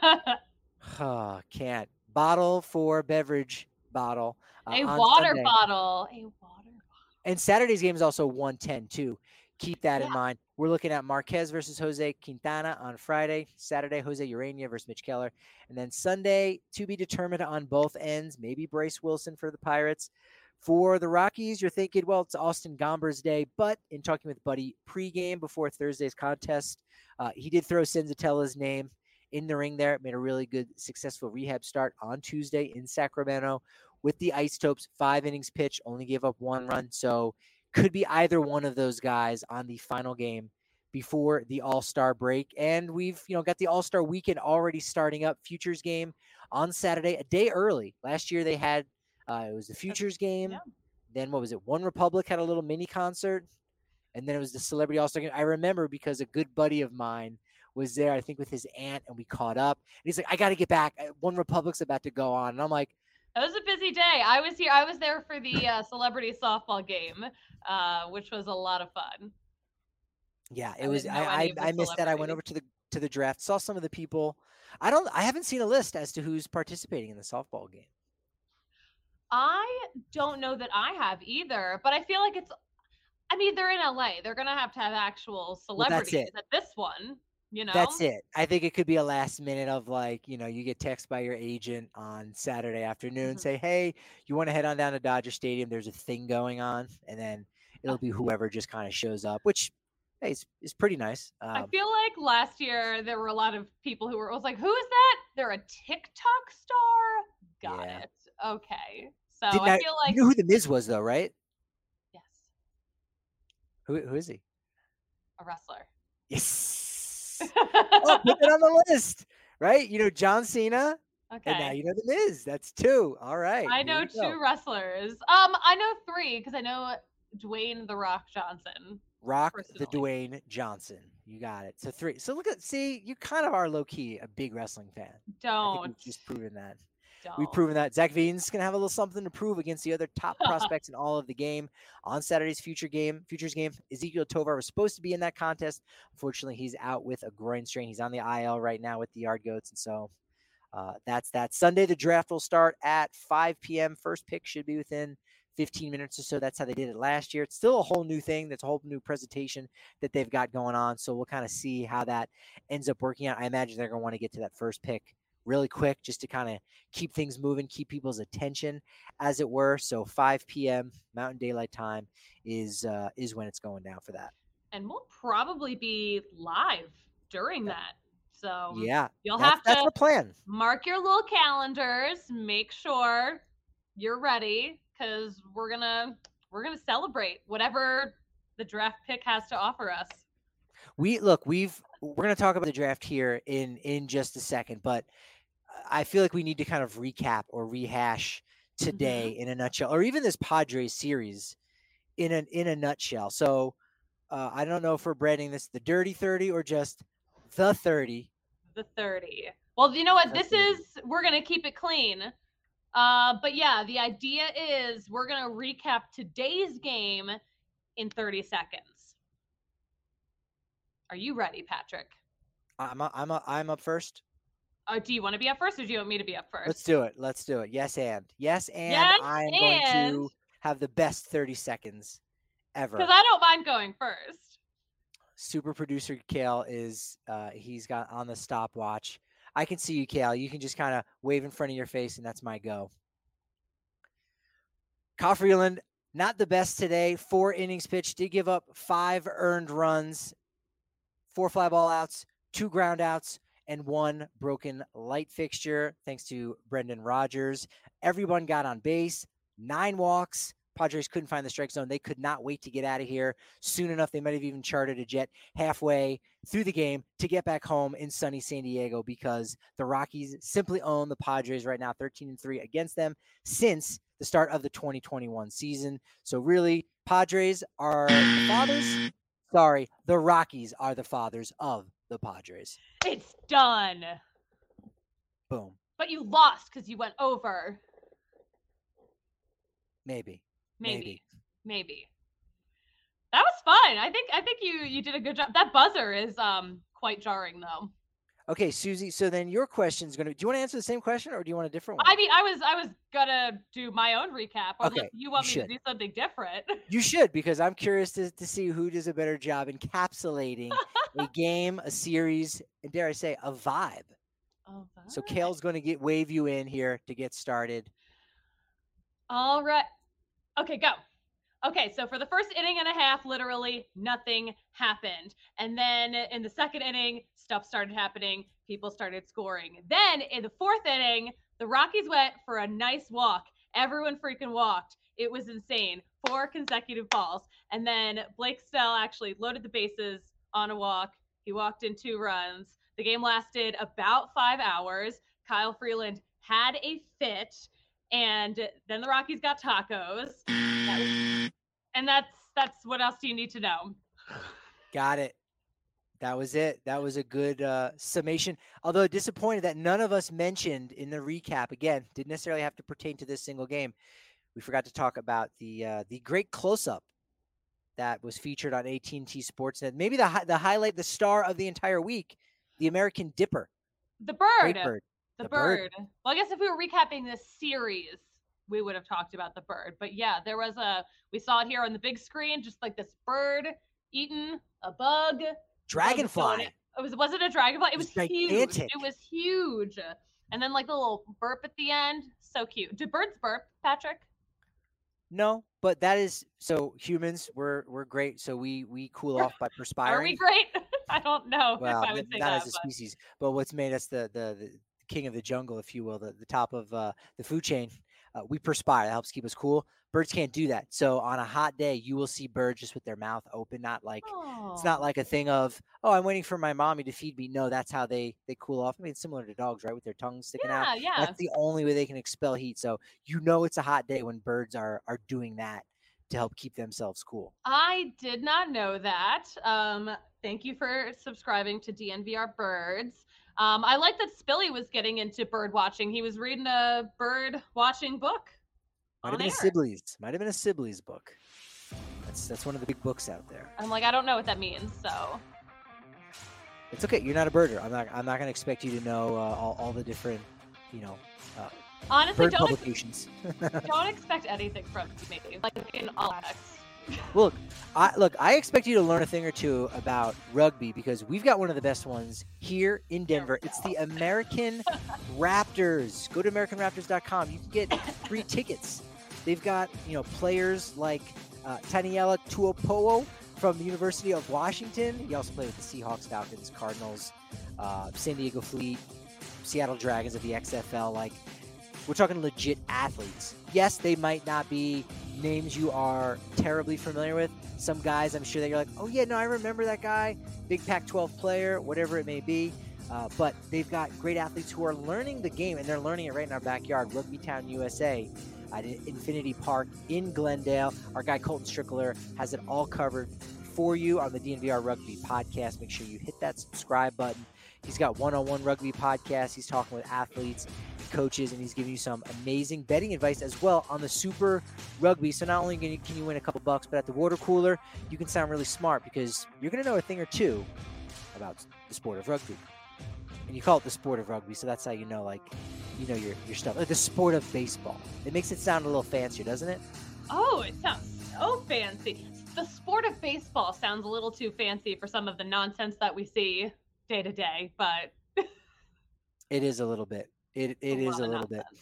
Speaker 1: Oh, can't. Bottle for beverage bottle. uh,
Speaker 2: A
Speaker 1: on
Speaker 2: water
Speaker 1: Sunday.
Speaker 2: bottle. A water bottle.
Speaker 1: And Saturday's game is also one ten too. Keep that in
Speaker 2: Yeah.
Speaker 1: mind. We're looking at Marquez versus Jose Quintana on Friday. Saturday, Jose Urania versus Mitch Keller. And then Sunday, to be determined on both ends. Maybe Bryce Wilson for the Pirates. For the Rockies, you're thinking, well, it's Austin Gomber's day. But in talking with Buddy pregame before Thursday's contest, uh, he did throw Senzatella's name in the ring there. Made a really good, successful rehab start on Tuesday in Sacramento with the Isotopes. Five innings pitched, only gave up one run. So could be either one of those guys on the final game before the All-Star break. And we've, you know, got the All-Star weekend already starting up. Futures game on Saturday, a day early. Last year they had, uh, it was the Futures game.
Speaker 2: Yeah.
Speaker 1: Then what was it? One Republic had a little mini concert. And then it was the Celebrity All-Star game. I remember because a good buddy of mine was there, I think with his aunt, and we caught up. And he's like, I got to get back. One Republic's about to go on. And I'm like,
Speaker 2: It was a busy day. I was here. I was there for the uh, celebrity softball game, uh, which was a lot of fun.
Speaker 1: yeah,
Speaker 2: I
Speaker 1: it was.
Speaker 2: didn't know
Speaker 1: I
Speaker 2: any
Speaker 1: I,
Speaker 2: of the
Speaker 1: I missed that. I went
Speaker 2: celebrities.
Speaker 1: over to the to the draft, saw some of the people. I don't. I haven't seen a list as to who's participating in the softball game.
Speaker 2: I don't know that I have either, but I feel like it's. I mean, they're in L A. They're gonna have to have actual
Speaker 1: Well, that's
Speaker 2: celebrities
Speaker 1: it.
Speaker 2: at this one. You know,
Speaker 1: That's it. I think it could be a last minute of like, you know, you get text by your agent on Saturday afternoon,
Speaker 2: Mhm.
Speaker 1: say, hey, you want to head on down to Dodger Stadium? There's a thing going on. And then it'll
Speaker 2: Uh,
Speaker 1: be whoever just kind of shows up, which hey, is, is pretty nice.
Speaker 2: I
Speaker 1: Um,
Speaker 2: feel like last year there were a lot of people who were was like, "Who is that? They're a TikTok star." Got
Speaker 1: yeah.
Speaker 2: it. Okay. So
Speaker 1: Didn't
Speaker 2: I
Speaker 1: I,
Speaker 2: feel
Speaker 1: you
Speaker 2: like
Speaker 1: knew who the Miz was though, right?
Speaker 2: yes,
Speaker 1: Who, who is he?
Speaker 2: a wrestler.
Speaker 1: Yes. Oh, put that on the list, right? You know, John Cena. And now
Speaker 2: Okay.
Speaker 1: you know the Miz. That's two. All right.
Speaker 2: I
Speaker 1: Here
Speaker 2: know
Speaker 1: we go.
Speaker 2: two wrestlers. Um, I know three because I know Dwayne the Rock Johnson.
Speaker 1: Rock the
Speaker 2: Personally.
Speaker 1: Dwayne Johnson. You got it. So three. So look at see, you kind of are low key a big wrestling fan. I think
Speaker 2: Don't.
Speaker 1: we've just proven that.
Speaker 2: Don't.
Speaker 1: We've proven that Zach Veen's gonna have a little something to prove against the other top prospects in all of the game on Saturday's future game, futures game. Ezekiel Tovar was supposed to be in that contest. Unfortunately, he's out with a groin strain. He's on the I L right now with the Yard Goats, and so uh, that's that. Sunday, the draft will start at five p.m. First pick should be within fifteen minutes or so. That's how they did it last year. It's still a whole new thing. That's a whole new presentation that they've got going on. So we'll kind of see how that ends up working out. I imagine they're going to want to get to that first pick really quick just to kind of keep things moving, keep people's attention, as it were. So five p.m. Mountain Daylight Time is uh, is when it's going down for that.
Speaker 2: And we'll probably be live during that. So
Speaker 1: Yeah,
Speaker 2: you'll
Speaker 1: that's,
Speaker 2: have
Speaker 1: that's
Speaker 2: to
Speaker 1: the plan.
Speaker 2: mark your little calendars. Make sure you're ready because we're gonna we're gonna celebrate whatever the draft pick has to offer us.
Speaker 1: We look, we've we're going to talk about the draft here in in just a second, but I feel like we need to kind of recap or rehash today
Speaker 2: Mm-hmm.
Speaker 1: in a nutshell, or even this Padres series in an in a nutshell. So uh, I don't know if we're branding this the Dirty thirty or just the thirty.
Speaker 2: The thirty. Well, you know what?
Speaker 1: The
Speaker 2: This
Speaker 1: thirty.
Speaker 2: is we're gonna keep it clean. Uh, but yeah, the idea is we're gonna recap today's game in thirty seconds. Are you ready, Patrick?
Speaker 1: I'm a, I'm a, I'm up first.
Speaker 2: Uh, do you want to be up first, or do you want me to be up first?
Speaker 1: Let's do it. Let's do it. Yes, and yes, and
Speaker 2: Yes,
Speaker 1: I'm going
Speaker 2: and
Speaker 1: to have the best thirty seconds ever.
Speaker 2: because I don't mind going first.
Speaker 1: Super producer Kale is uh, he's got on the stopwatch. I can see you, Kale. You can just kind of wave in front of your face, and that's my go. Kyle Freeland, not the best today. Four innings pitched, did give up five earned runs, four fly ball outs, two ground outs, and one broken light fixture, thanks to Brendan Rodgers. Everyone got on base, nine walks. Padres couldn't find the strike zone. They could not wait to get out of here. Soon enough, they might have even chartered a jet halfway through the game to get back home in sunny San Diego because the Rockies simply own the Padres right now, thirteen and three against them since the start of the twenty twenty-one season. So really, Padres are the fathers. Sorry, the Rockies are the fathers of the Padres.
Speaker 2: It's done.
Speaker 1: Boom.
Speaker 2: But you lost because you went over.
Speaker 1: Maybe.
Speaker 2: Maybe.
Speaker 1: Maybe.
Speaker 2: Maybe. That was fun. I think I think you you did a good job. That buzzer is um quite jarring though.
Speaker 1: Okay, Susie. So then your question is going to. Do you want to answer the same question or do you want a different one?
Speaker 2: I mean, I was I was gonna do my own recap. Unless
Speaker 1: Okay,
Speaker 2: you want
Speaker 1: you
Speaker 2: me
Speaker 1: should.
Speaker 2: to do something different.
Speaker 1: You should, because I'm curious to, to see who does a better job encapsulating a game, a series, and dare I say, a vibe.
Speaker 2: Oh,
Speaker 1: So Kale's going to get wave you in here to get started.
Speaker 2: All right. Okay, go. Okay, so for the first inning and a half, literally nothing happened. And then in the second inning, stuff started happening. People started scoring. Then in the fourth inning, the Rockies went for a nice walk. Everyone freaking walked. It was insane. Four consecutive balls. And then Blake Snell actually loaded the bases on a walk. He walked in two runs. The game lasted about five hours. Kyle Freeland had a fit. And then the Rockies got tacos. That was, and that's that's what else do you need to know?
Speaker 1: Got it. That was it. That was a good uh, summation. Although disappointed that none of us mentioned in the recap, again, didn't necessarily have to pertain to this single game. We forgot to talk about the uh, the great close-up that was featured on A T and T Sportsnet. Maybe the hi- the highlight, the star of the entire week, the American Dipper.
Speaker 2: The bird.
Speaker 1: Great bird.
Speaker 2: The,
Speaker 1: The
Speaker 2: bird.
Speaker 1: bird.
Speaker 2: Well, I guess if we were recapping this series, we would have talked about the bird. But yeah, there was a, we saw it here on the big screen, just like this bird eating a bug.
Speaker 1: Dragonfly.
Speaker 2: It was was it a dragonfly? It was,
Speaker 1: was
Speaker 2: huge.
Speaker 1: gigantic.
Speaker 2: It was huge. And then like the little burp at the end, so cute. Do birds burp, Patrick?
Speaker 1: No, but that is so humans we're we're great. So we we cool off by perspiring.
Speaker 2: Are we great? I don't know
Speaker 1: Well,
Speaker 2: if I would say
Speaker 1: not
Speaker 2: that,
Speaker 1: as a
Speaker 2: but...
Speaker 1: species, but what's made us the the, the king of the jungle, if you will, the, the top of uh, the food chain. Uh, we perspire. That helps keep us cool. Birds can't do that. So on a hot day, you will see birds just with their mouth open, not like
Speaker 2: oh.
Speaker 1: it's not like a thing of, oh, I'm waiting for my mommy to feed me. No, that's how they they cool off. I mean, it's similar to dogs, right? With their tongues sticking
Speaker 2: yeah,
Speaker 1: out.
Speaker 2: Yeah,
Speaker 1: That's the only way they can expel heat. So you know it's a hot day when birds are are doing that to help keep themselves cool.
Speaker 2: I did not know that. Um, thank you for subscribing to D N V R Birds. Um, I like that Spilly was getting into bird watching. He was reading a bird watching book.
Speaker 1: Might have been
Speaker 2: air.
Speaker 1: a Sibley's. Might have been a Sibley's book. That's that's one of the big books out there.
Speaker 2: I'm like, I don't know what that means, so.
Speaker 1: It's okay. You're not a birder. I'm not. I'm not going to expect you to know uh, all, all the different, you know, uh,
Speaker 2: honestly
Speaker 1: bird
Speaker 2: don't
Speaker 1: publications.
Speaker 2: Ex- don't expect anything from me, like in all aspects.
Speaker 1: Look, I look. I expect you to learn a thing or two about rugby because we've got one of the best ones here in Denver. It's the American Raptors. Go to American Raptors dot com. You can get free tickets. They've got you know players like uh, Taniela Tuopo'o from the University of Washington. He also played with the Seahawks, Falcons, Cardinals, uh, San Diego Fleet, Seattle Dragons of the X F L. Like we're talking legit athletes. Yes, they might not be names you are terribly familiar with. Some guys, I'm sure that you're like, oh yeah, no, I remember that guy, big Pac twelve player, whatever it may be. Uh, but they've got great athletes who are learning the game, and they're learning it right in our backyard. Rugby Town, U S A, at Infinity Park in Glendale. Our guy Colton Strickler has it all covered for you on the D N V R Rugby podcast. Make sure you hit that subscribe button. He's got one-on-one rugby podcasts. He's talking with athletes and coaches, and he's giving you some amazing betting advice as well on the Super Rugby. So not only can you, can you win a couple bucks, but at the water cooler, you can sound really smart because you're going to know a thing or two about the sport of rugby. And you call it the sport of rugby, so that's how you know, like, you know your your stuff. Like the sport of baseball. It makes it sound a little fancier, doesn't it?
Speaker 2: Oh, it sounds so fancy. The sport of baseball sounds a little too fancy for some of the nonsense that we see day to day, but
Speaker 1: it is a little bit. It it
Speaker 2: a
Speaker 1: is a little
Speaker 2: nonsense.
Speaker 1: bit.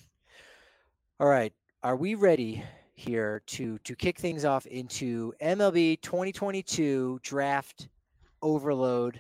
Speaker 1: All right, are we ready here to to kick things off into M L B twenty twenty-two draft overload?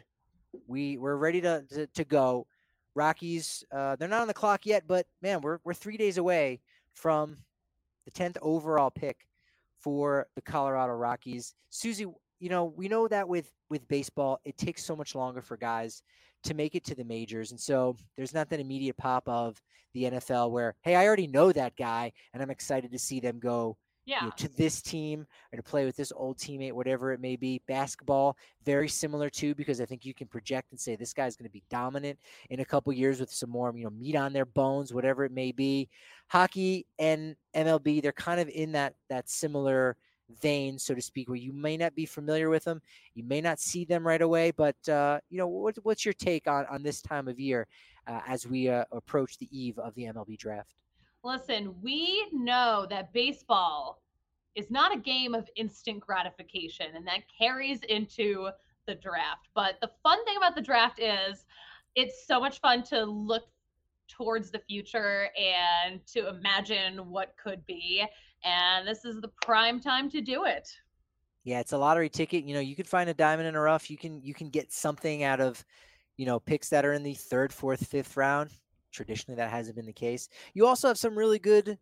Speaker 1: We we're ready to to, to go. Rockies, uh, they're not on the clock yet, but man, we're we're three days away from the tenth overall pick for the Colorado Rockies. Susie, you know, we know that with, with baseball, it takes so much longer for guys to make it to the majors. And so there's not that immediate pop of the N F L where, hey, I already know that guy, and I'm excited to see them go
Speaker 2: yeah.
Speaker 1: you know, to this team or to play with this old teammate, whatever it may be. Basketball, very similar too, because I think you can project and say this guy's going to be dominant in a couple years with some more, you know, meat on their bones, whatever it may be. Hockey and M L B, they're kind of in that that similar vein, so to speak, where you may not be familiar with them, you may not see them right away, but uh, you know, what, what's your take on on this time of year uh, as we uh, approach the eve of the M L B draft?
Speaker 2: Listen, we know that baseball is not a game of instant gratification, and that carries into the draft. But the fun thing about the draft is it's so much fun to look towards the future and to imagine what could be. And this is the prime time to do it.
Speaker 1: Yeah, it's a lottery ticket. You know, you could find a diamond in a rough. You can you can get something out of, you know, picks that are in the third, fourth, fifth round. Traditionally, that hasn't been the case. You also have some really good,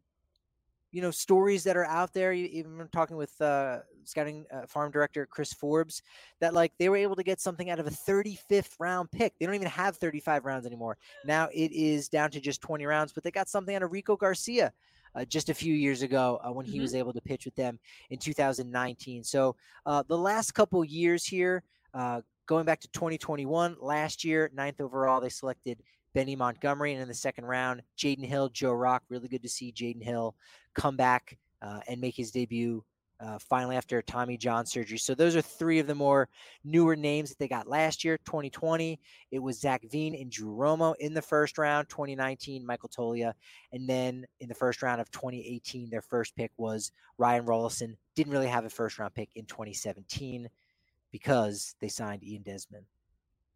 Speaker 1: you know, stories that are out there. You, even talking with uh, scouting uh, farm director Chris Forbes, that like they were able to get something out of a thirty-fifth round pick. They don't even have thirty-five rounds anymore. Now it is down to just twenty rounds, but they got something out of Rico Garcia uh, just a few years ago uh, when he mm-hmm. was able to pitch with them in two thousand nineteen. So uh, the last couple years here, uh, going back to twenty twenty-one, last year, ninth overall, they selected Benny Montgomery, and in the second round, Jaden Hill, Joe Rock. Really good to see Jaden Hill come back uh, and make his debut uh, finally after Tommy John surgery. So those are three of the more newer names that they got last year. twenty twenty, it was Zach Veen and Drew Romo in the first round. twenty nineteen, Michael Tolia. And then in the first round of twenty eighteen, their first pick was Ryan Rollison. Didn't really have a first round pick in twenty seventeen because they signed Ian Desmond.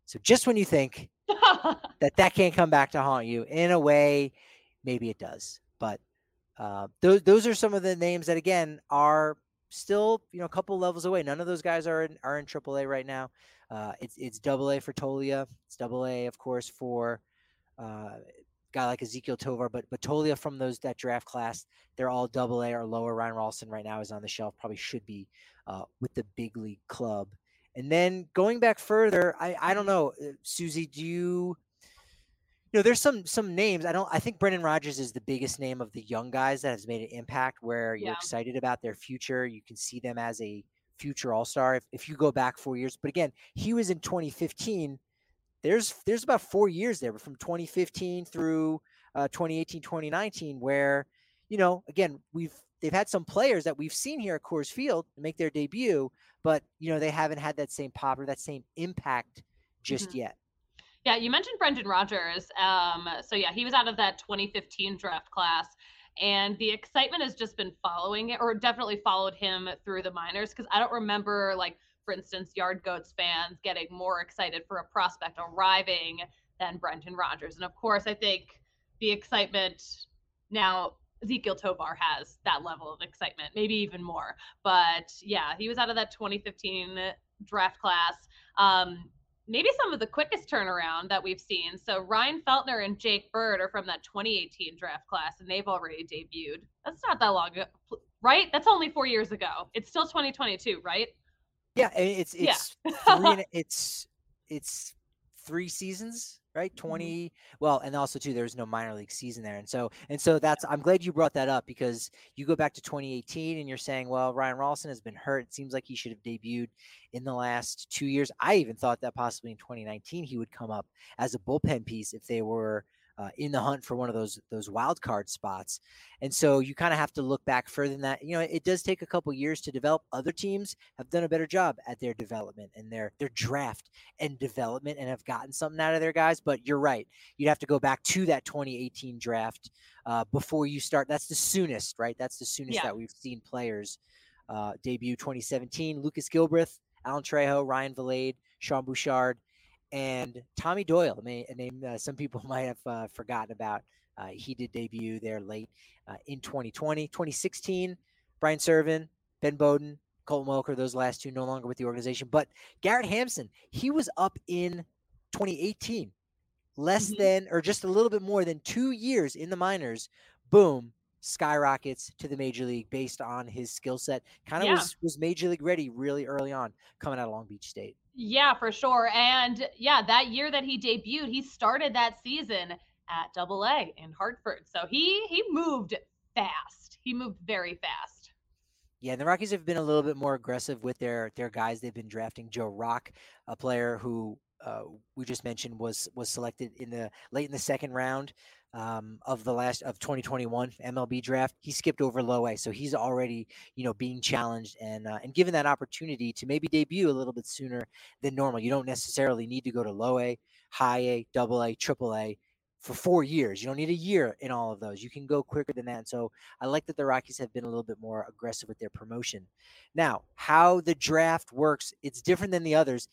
Speaker 1: So just when you think that that can't come back to haunt you, in a way, maybe it does. But uh, those those are some of the names that, again, are still, you know, a couple levels away. None of those guys are in, are in triple A right now. Uh, it's it's double A for Tolia. It's double A, of course, for uh, guy like Ezekiel Tovar, but but Tolia from those that draft class, they're all double A or lower. Ryan Ralston right now is on the shelf, probably should be uh, with the big league club. And then going back further, I, I don't know, uh, Susie, do you, you know, there's some some names. I don't. I think Brendan Rodgers is the biggest name of the young guys that has made an impact. Where you're
Speaker 2: Yeah.
Speaker 1: excited about their future, you can see them as a future All Star. If if you go back four years, but again, he was in twenty fifteen. There's there's about four years there, from twenty fifteen through uh, twenty eighteen, twenty nineteen, where, you know, again, we've they've had some players that we've seen here at Coors Field make their debut, but, you know, they haven't had that same pop or that same impact just
Speaker 2: Mhm.
Speaker 1: yet.
Speaker 2: Yeah, you mentioned Brendan Rodgers. Um, so yeah, he was out of that twenty fifteen draft class, and the excitement has just been following it, or definitely followed him through the minors. Because I don't remember, like, for instance, Yard Goats fans getting more excited for a prospect arriving than Brendan Rodgers. And of course, I think the excitement now, Ezekiel Tovar has that level of excitement, maybe even more. But yeah, he was out of that twenty fifteen draft class. Um, maybe some of the quickest turnaround that we've seen. So Ryan Feltner and Jake Bird are from that twenty eighteen draft class, and they've already debuted. That's not that long ago, right? That's only four years ago. It's still twenty twenty-two, right?
Speaker 1: Yeah, and it's
Speaker 2: Yeah.
Speaker 1: it's three and it's it's three seasons, right?
Speaker 2: Mm-hmm.
Speaker 1: twenty. Well, and also too, there's no minor league season there, and so and so that's. I'm glad you brought that up, because you go back to twenty eighteen and you're saying, well, Ryan Ralston has been hurt. It seems like he should have debuted in the last two years. I even thought that possibly in twenty nineteen he would come up as a bullpen piece if they were uh, in the hunt for one of those those wild card spots. And so you kind of have to look back further than that. You know, it does take a couple years to develop. Other teams have done a better job at their development and their their draft and development, and have gotten something out of their guys. But you're right. You'd have to go back to that twenty eighteen draft uh, before you start. That's the soonest, right? That's the soonest
Speaker 2: Yeah.
Speaker 1: that we've seen players uh, debut. twenty seventeen, Lucas Gilbreth, Alan Trejo, Ryan Valade, Sean Bouchard, and Tommy Doyle, a name uh, some people might have uh, forgotten about. Uh, he did debut there late uh, in twenty twenty. twenty sixteen, Brian Servin, Ben Bowden, Colton Welker, those last two no longer with the organization. But Garrett Hampson, he was up in twenty eighteen, less
Speaker 2: Mhm.
Speaker 1: than, or just a little bit more than two years in the minors. Boom, skyrockets to the major league based on his skill set. Kind of
Speaker 2: Yeah.
Speaker 1: was, was major league ready really early on, coming out of Long Beach State.
Speaker 2: Yeah, for sure. And yeah, that year that he debuted, he started that season at Double A in Hartford. So he he moved fast. He moved very fast.
Speaker 1: Yeah, and the Rockies have been a little bit more aggressive with their their guys. They've been drafting Joe Rock, a player who uh, we just mentioned was was selected in the late in the second round um, of the last of twenty twenty-one M L B draft. He skipped over low A, so he's already, you know, being challenged and uh, and given that opportunity to maybe debut a little bit sooner than normal. You don't necessarily need to go to low A, high A, double A, triple A for four years. You don't need a year in all of those. You can go quicker than that. And so I like that the Rockies have been a little bit more aggressive with their promotion. Now, how the draft works, it's different than the others.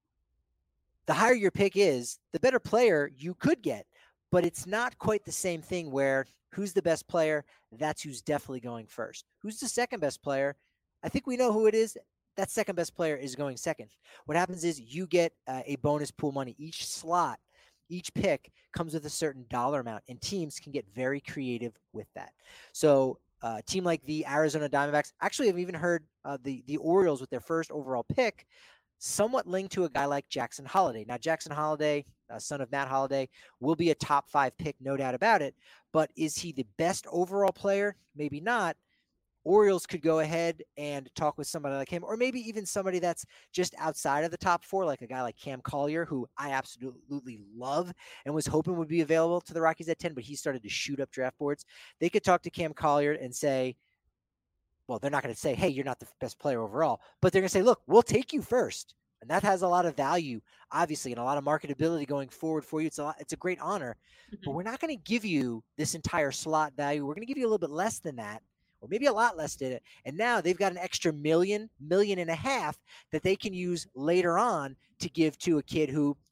Speaker 1: The higher your pick is, the better player you could get, but it's not quite the same thing where who's the best player, that's who's definitely going first. Who's the second best player? I think we know who it is. That second best player is going second. What happens is you get uh, a bonus pool money. Each slot, each pick comes with a certain dollar amount, and teams can get very creative with that. So uh, a team like the Arizona Diamondbacks, actually I've even heard uh, the, the Orioles with their first overall pick somewhat linked to a guy like Jackson Holliday. Now, Jackson Holliday, uh, son of Matt Holliday, will be a top five pick, no doubt about it. But is he the best overall player? Maybe not. Orioles could go ahead and talk with somebody like him, or maybe even somebody that's just outside of the top four, like a guy like Cam Collier, who I absolutely love and was hoping would be available to the Rockies at ten, but he started to shoot up draft boards. They could talk to Cam Collier and say, well, they're not going to say, hey, you're not the best player overall, but they're going to say, look, we'll take you first. And that has a lot of value, obviously, and a lot of marketability going forward for you. It's a lot, it's a great honor,
Speaker 2: Mhm.
Speaker 1: but we're not going to give you this entire slot value. We're going to give you a little bit less than that, or maybe a lot less than it. And now they've got an extra million, million and a half that they can use later on to give to a kid who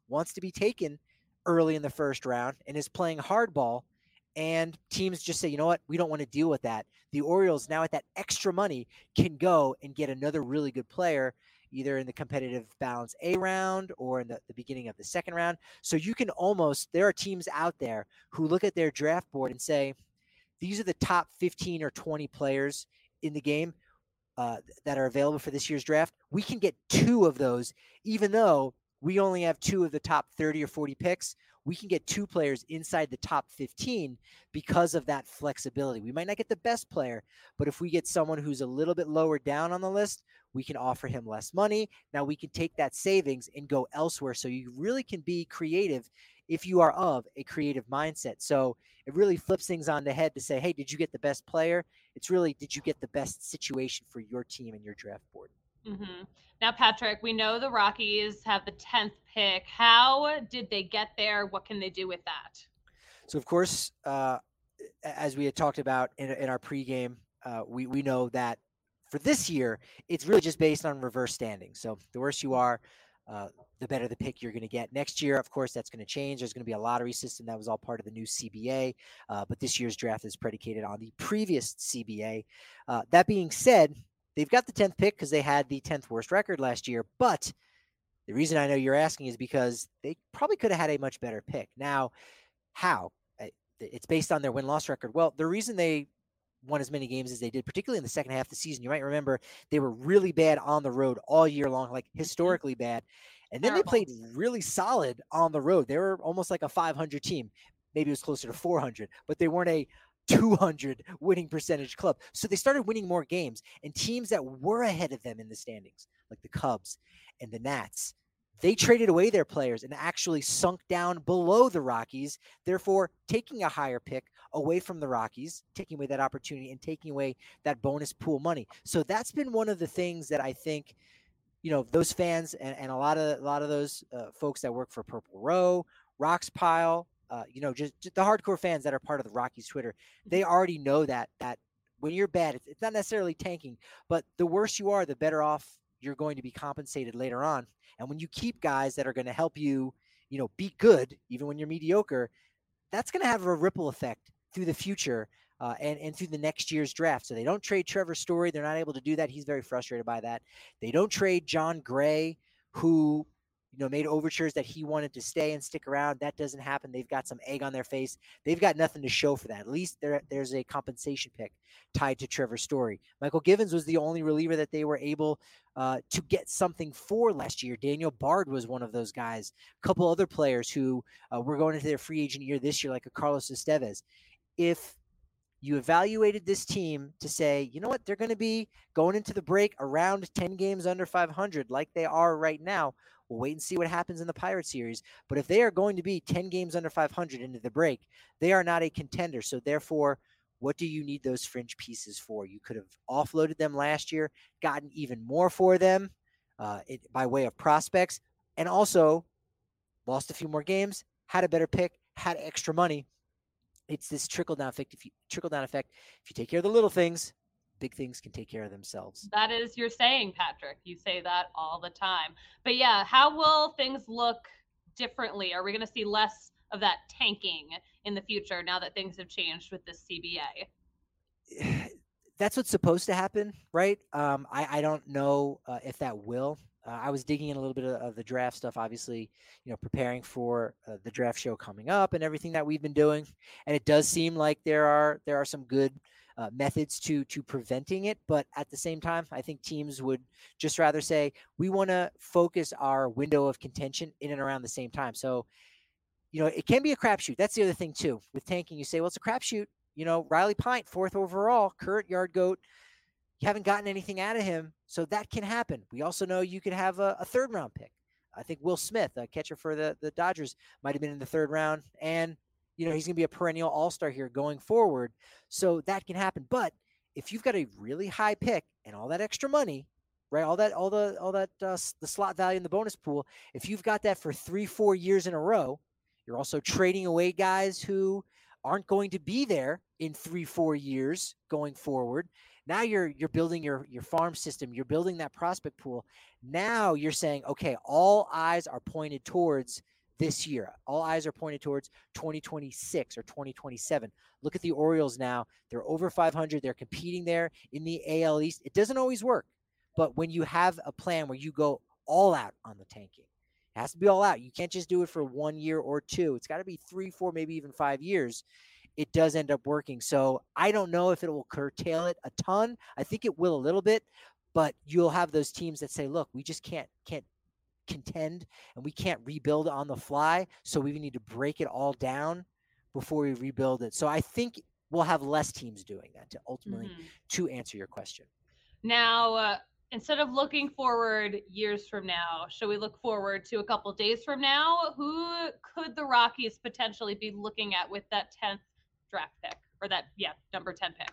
Speaker 1: wants to be taken early in the first round and is playing hardball, and teams just say, you know what, we don't want to deal with that. The Orioles now at that extra money can go and get another really good player, either in the competitive balance A round or in the, the beginning of the second round. So you can almost, there are teams out there who look at their draft board and say, these are the top fifteen or twenty players in the game uh, that are available for this year's draft. We can get two of those, even though we only have two of the top thirty or forty picks. We can get two players inside the top fifteen because of that flexibility. We might not get the best player, but if we get someone who's a little bit lower down on the list, we can offer him less money. Now we can take that savings and go elsewhere. So you really can be creative if you are of a creative mindset. So it really flips things on the head to say, hey, did you get the best player? It's really, did you get the best situation for your team and your draft board?
Speaker 2: Mm-hmm. Now, Patrick, we know the Rockies have the tenth pick. How did they get there? What can they do with that?
Speaker 1: So, of course, uh, as we had talked about in, in our pregame, uh, we, we know that for this year, it's really just based on reverse standing. So the worse you are, uh, the better the pick you're going to get. Next year, of course, that's going to change. There's going to be a lottery system. That was all part of the new C B A. Uh, but this year's draft is predicated on the previous C B A. Uh, that being said, they've got the tenth pick because they had the tenth worst record last year. But the reason I know you're asking is because they probably could have had a much better pick. Now, how? It's based on their win-loss record. Well, the reason they won as many games as they did, particularly in the second half of the season, you might remember they were really bad on the road all year long, like historically bad. And then
Speaker 2: Terrible.
Speaker 1: They played really solid on the road. They were almost like a five hundred team. Maybe it was closer to four hundred, but they weren't a two hundred winning percentage club. So they started winning more games, and teams that were ahead of them in the standings, like the Cubs and the Nats, they traded away their players and actually sunk down below the Rockies, therefore taking a higher pick away from the Rockies, taking away that opportunity and taking away that bonus pool money. So that's been one of the things that I think, you know, those fans and, and a lot of a lot of those uh, folks that work for Purple Row, Rocks Pile, uh, you know, just, just the hardcore fans that are part of the Rockies Twitter, they already know that that when you're bad, it's, it's not necessarily tanking, but the worse you are, the better off you're going to be compensated later on. And when you keep guys that are going to help you, you know, be good, even when you're mediocre, that's going to have a ripple effect through the future uh, and, and through the next year's draft. So they don't trade Trevor Story. They're not able to do that. He's very frustrated by that. They don't trade John Gray, who, you know, made overtures that he wanted to stay and stick around. That doesn't happen. They've got some egg on their face. They've got nothing to show for that. At least there, there's a compensation pick tied to Trevor Story. Michael Givens was the only reliever that they were able uh, to get something for last year. Daniel Bard was one of those guys. A couple other players who uh, were going into their free agent year this year, like a Carlos Estevez. If you evaluated this team to say, you know what, they're going to be going into the break around ten games under five hundred like they are right now. We'll wait and see what happens in the Pirate series. But if they are going to be ten games under five hundred into the break, they are not a contender. So therefore, what do you need those fringe pieces for? You could have offloaded them last year, gotten even more for them uh, it, by way of prospects, and also lost a few more games, had a better pick, had extra money. It's this trickle down effect. If you trickle down effect, if you take care of the little things, big things can take care of themselves.
Speaker 2: That is your saying, Patrick. You say that all the time. But yeah, how will things look differently? Are we going to see less of that tanking in the future now that things have changed with this C B
Speaker 1: A? That's what's supposed to happen, right? Um, I, I don't know uh, if that will. Uh, I was digging in a little bit of, of the draft stuff, obviously, you know, preparing for uh, the draft show coming up and everything that we've been doing. And it does seem like there are there are some good uh, methods to to preventing it. But at the same time, I think teams would just rather say, we want to focus our window of contention in and around the same time. So, you know, it can be a crapshoot. That's the other thing, too. With tanking, you say, well, it's a crapshoot. You know, Riley Pint, fourth overall, current yard goat. You haven't gotten anything out of him, so that can happen. We also know you could have a, a third-round pick. I think Will Smith, a catcher for the, the Dodgers, might have been in the third round, and, you know, he's going to be a perennial all-star here going forward, so that can happen. But if you've got a really high pick and all that extra money, right, all that, all the, all that, uh, the slot value in the bonus pool, if you've got that for three, four years in a row, you're also trading away guys who aren't going to be there in three, four years going forward. Now you're you're building your, your farm system. You're building that prospect pool. Now you're saying, okay, all eyes are pointed towards this year. All eyes are pointed towards twenty twenty-six or twenty twenty-seven. Look at the Orioles now. They're over five hundred. They're competing there in the A L East. It doesn't always work, but when you have a plan where you go all out on the tanking, it has to be all out. You can't just do it for one year or two. It's got to be three, four, maybe even five years. It does end up working. So I don't know if it will curtail it a ton. I think it will a little bit, but you'll have those teams that say, look, we just can't can't contend and we can't rebuild on the fly. So we need to break it all down before we rebuild it. So I think we'll have less teams doing that to ultimately mm-hmm. to answer your question.
Speaker 2: Now, uh, instead of looking forward years from now, should we look forward to a couple days from now? Who could the Rockies potentially be looking at with that tenth draft pick or that, yeah, number ten pick?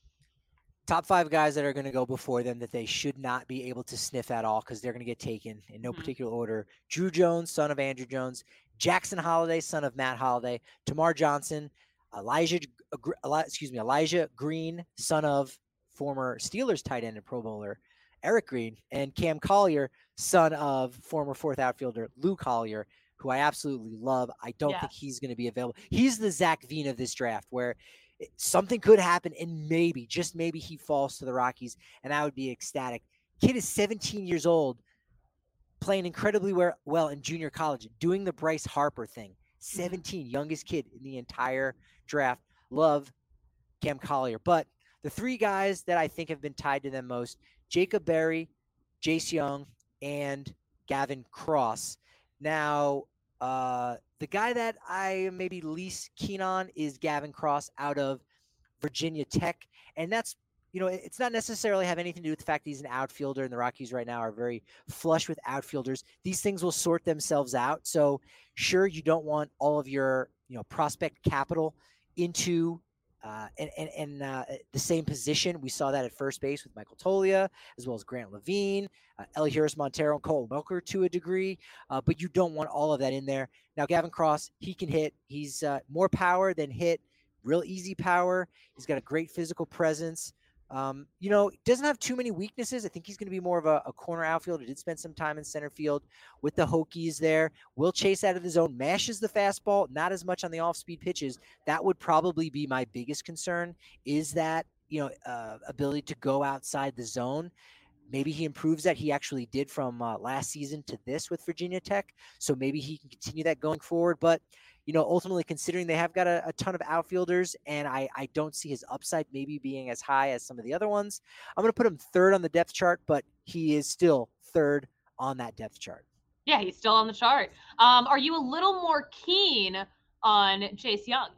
Speaker 1: Top five guys that are going to go before them that they should not be able to sniff at all because they're going to get taken in no mm-hmm. particular order. Drew Jones, son of Andrew Jones. Jackson Holliday, son of Matt Holliday. Tamar Johnson. Elijah, excuse me, Elijah Green, son of former Steelers tight end and Pro Bowler Eric Green. And Cam Collier, son of former fourth outfielder Lou Collier, who I absolutely love. I don't yeah. think he's going to be available. He's the Zach Veen of this draft where something could happen and maybe, just maybe he falls to the Rockies and I would be ecstatic. Kid is seventeen years old, playing incredibly well in junior college, doing the Bryce Harper thing. seventeen, youngest kid in the entire draft. Love Cam Collier. But the three guys that I think have been tied to them most, Jacob Berry, Jace Young, and Gavin Cross. Now, uh, the guy that I am maybe least keen on is Gavin Cross out of Virginia Tech. And that's, you know, it's not necessarily have anything to do with the fact that he's an outfielder, and the Rockies right now are very flush with outfielders. These things will sort themselves out. So sure, you don't want all of your, you know, prospect capital into uh, and, and, and uh, the same position. We saw that at first base with Michael Tolia, as well as Grant Levine, uh, Elihuris Montero, and Cole Welker to a degree. Uh, but you don't want all of that in there. Now, Gavin Cross, he can hit. He's uh, more power than hit, real easy power. He's got a great physical presence. Um, you know, doesn't have too many weaknesses. I think he's going to be more of a, a corner outfielder. Did spend some time in center field with the Hokies there. Will chase out of the zone, mashes the fastball, not as much on the off-speed pitches. That would probably be my biggest concern, is that, you know, uh, ability to go outside the zone. Maybe he improves that. He actually did from uh, last season to this with Virginia Tech. So maybe he can continue that going forward. But, you know, ultimately considering they have got a, a ton of outfielders, and I, I don't see his upside maybe being as high as some of the other ones, I'm going to put him third on the depth chart, but he is still third on that depth chart.
Speaker 2: Yeah, he's still on the chart. Um, are you a little more keen on Jace Young?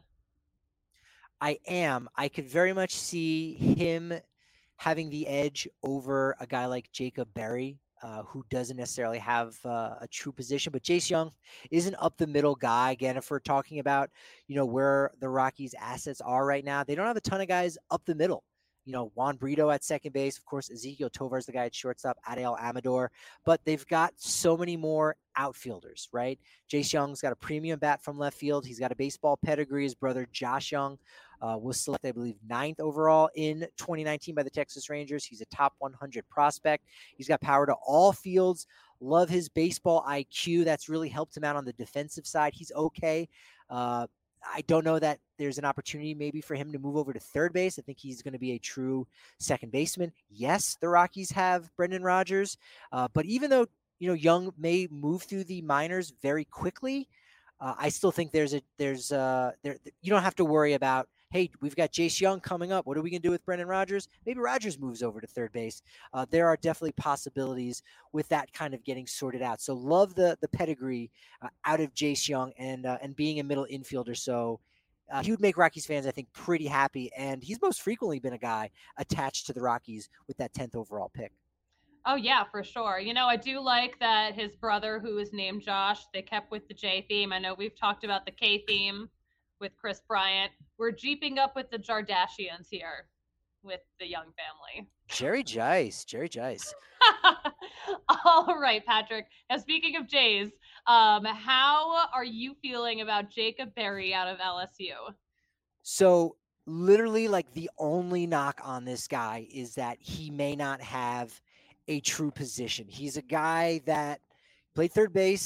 Speaker 1: I am. I could very much see him having the edge over a guy like Jacob Berry, uh, who doesn't necessarily have uh, a true position. But Jace Young is an up-the-middle guy. Again, if we're talking about, you know, where the Rockies' assets are right now, they don't have a ton of guys up the middle. You know, Juan Brito at second base. Of course, Ezequiel Tovar is the guy at shortstop, Adael Amador. But they've got so many more outfielders, right? Jace Young's got a premium bat from left field. He's got a baseball pedigree. His brother, Josh Young, Uh, was selected, I believe, ninth overall in twenty nineteen by the Texas Rangers. He's a top one hundred prospect. He's got power to all fields. Love his baseball I Q. That's really helped him out on the defensive side. He's okay. Uh, I don't know that there's an opportunity maybe for him to move over to third base. I think he's going to be a true second baseman. Yes, the Rockies have Brendan Rodgers, uh, but even though, you know, Young may move through the minors very quickly, uh, I still think there's a there's uh there you don't have to worry about, hey, we've got Jace Young coming up. What are we going to do with Brendan Rodgers? Maybe Rodgers moves over to third base. Uh, there are definitely possibilities with that kind of getting sorted out. So love the the pedigree uh, out of Jace Young and uh, and being a middle infielder. So uh, he would make Rockies fans, I think, pretty happy. And he's most frequently been a guy attached to the Rockies with that tenth overall pick.
Speaker 2: Oh, yeah, for sure. You know, I do like that his brother, who is named Josh, they kept with the J theme. I know we've talked about the K theme with Chris Bryant. We're jeeping up with the Jardashians here with the Young family.
Speaker 1: Jerry Jice, Jerry Jice.
Speaker 2: All right, Patrick. Now, speaking of Jays, um, how are you feeling about Jacob Berry out of L S U?
Speaker 1: So literally, like, the only knock on this guy is that he may not have a true position. He's a guy that played third base,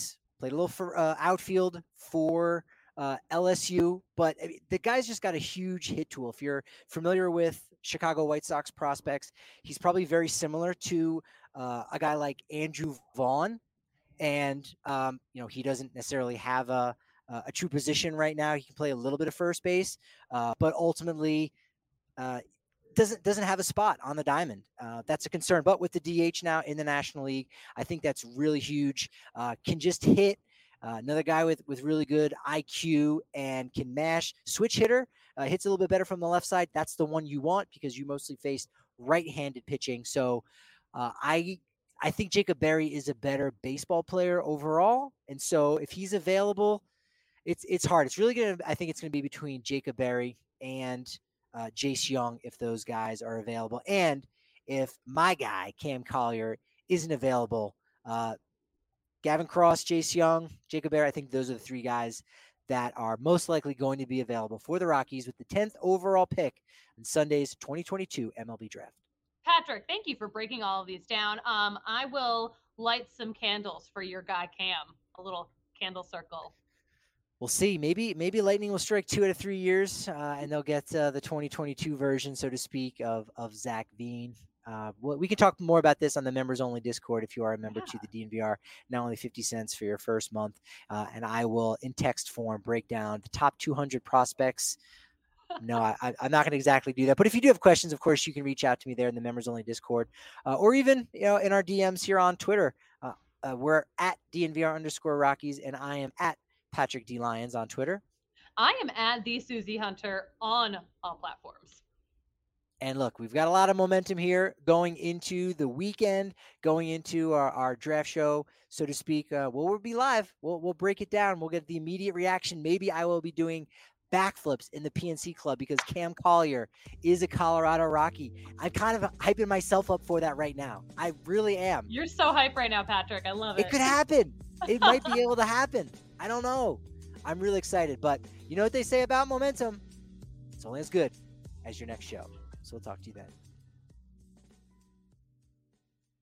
Speaker 1: played a little for uh, outfield for uh, L S U, but I mean, the guy's just got a huge hit tool. If you're familiar with Chicago White Sox prospects, he's probably very similar to uh, a guy like Andrew Vaughn. And, um, you know, he doesn't necessarily have a, a true position right now. He can play a little bit of first base, uh, but ultimately uh, doesn't doesn't have a spot on the diamond. Uh, that's a concern. But with the D H now in the National League, I think that's really huge. Uh, can just hit. Uh, another guy with, with really good I Q and can mash. Switch hitter, uh, hits a little bit better from the left side. That's the one you want because you mostly face right-handed pitching. So uh, I I think Jacob Berry is a better baseball player overall. And so if he's available, it's it's hard. It's really going to – I think it's going to be between Jacob Berry and uh, Jace Young if those guys are available. And if my guy, Cam Collier, isn't available uh, – Gavin Cross, Jace Young, Jacob Berry, I think those are the three guys that are most likely going to be available for the Rockies with the tenth overall pick in Sunday's twenty twenty-two M L B Draft.
Speaker 2: Patrick, thank you for breaking all of these down. Um, I will light some candles for your guy Cam, a little candle circle.
Speaker 1: We'll see. Maybe maybe Lightning will strike two out of three years, uh, and they'll get uh, the twenty twenty-two version, so to speak, of of Zach Veen. Uh, well, we can talk more about this on the members-only Discord if you are a member yeah. to the D N V R. Not only fifty cents for your first month, uh, and I will, in text form, break down the top two hundred prospects. No, I, I'm not going to exactly do that. But if you do have questions, of course, you can reach out to me there in the members-only Discord, uh, or even you know in our D Ms here on Twitter. Uh, uh, we're at D N V R underscore Rockies, and I am at Patrick D. Lyons on Twitter.
Speaker 2: I am at the Susie Hunter on all platforms.
Speaker 1: And look, we've got a lot of momentum here going into the weekend, going into our, our draft show, so to speak. Uh, well, we'll be live. We'll we'll break it down. We'll get the immediate reaction. Maybe I will be doing backflips in the P N C Club because Cam Collier is a Colorado Rocky. I'm kind of hyping myself up for that right now. I really am.
Speaker 2: You're so hyped right now, Patrick. I love it.
Speaker 1: It could happen. It might be able to happen. I don't know. I'm really excited. But you know what they say about momentum? It's only as good as your next show. So we'll talk to you then.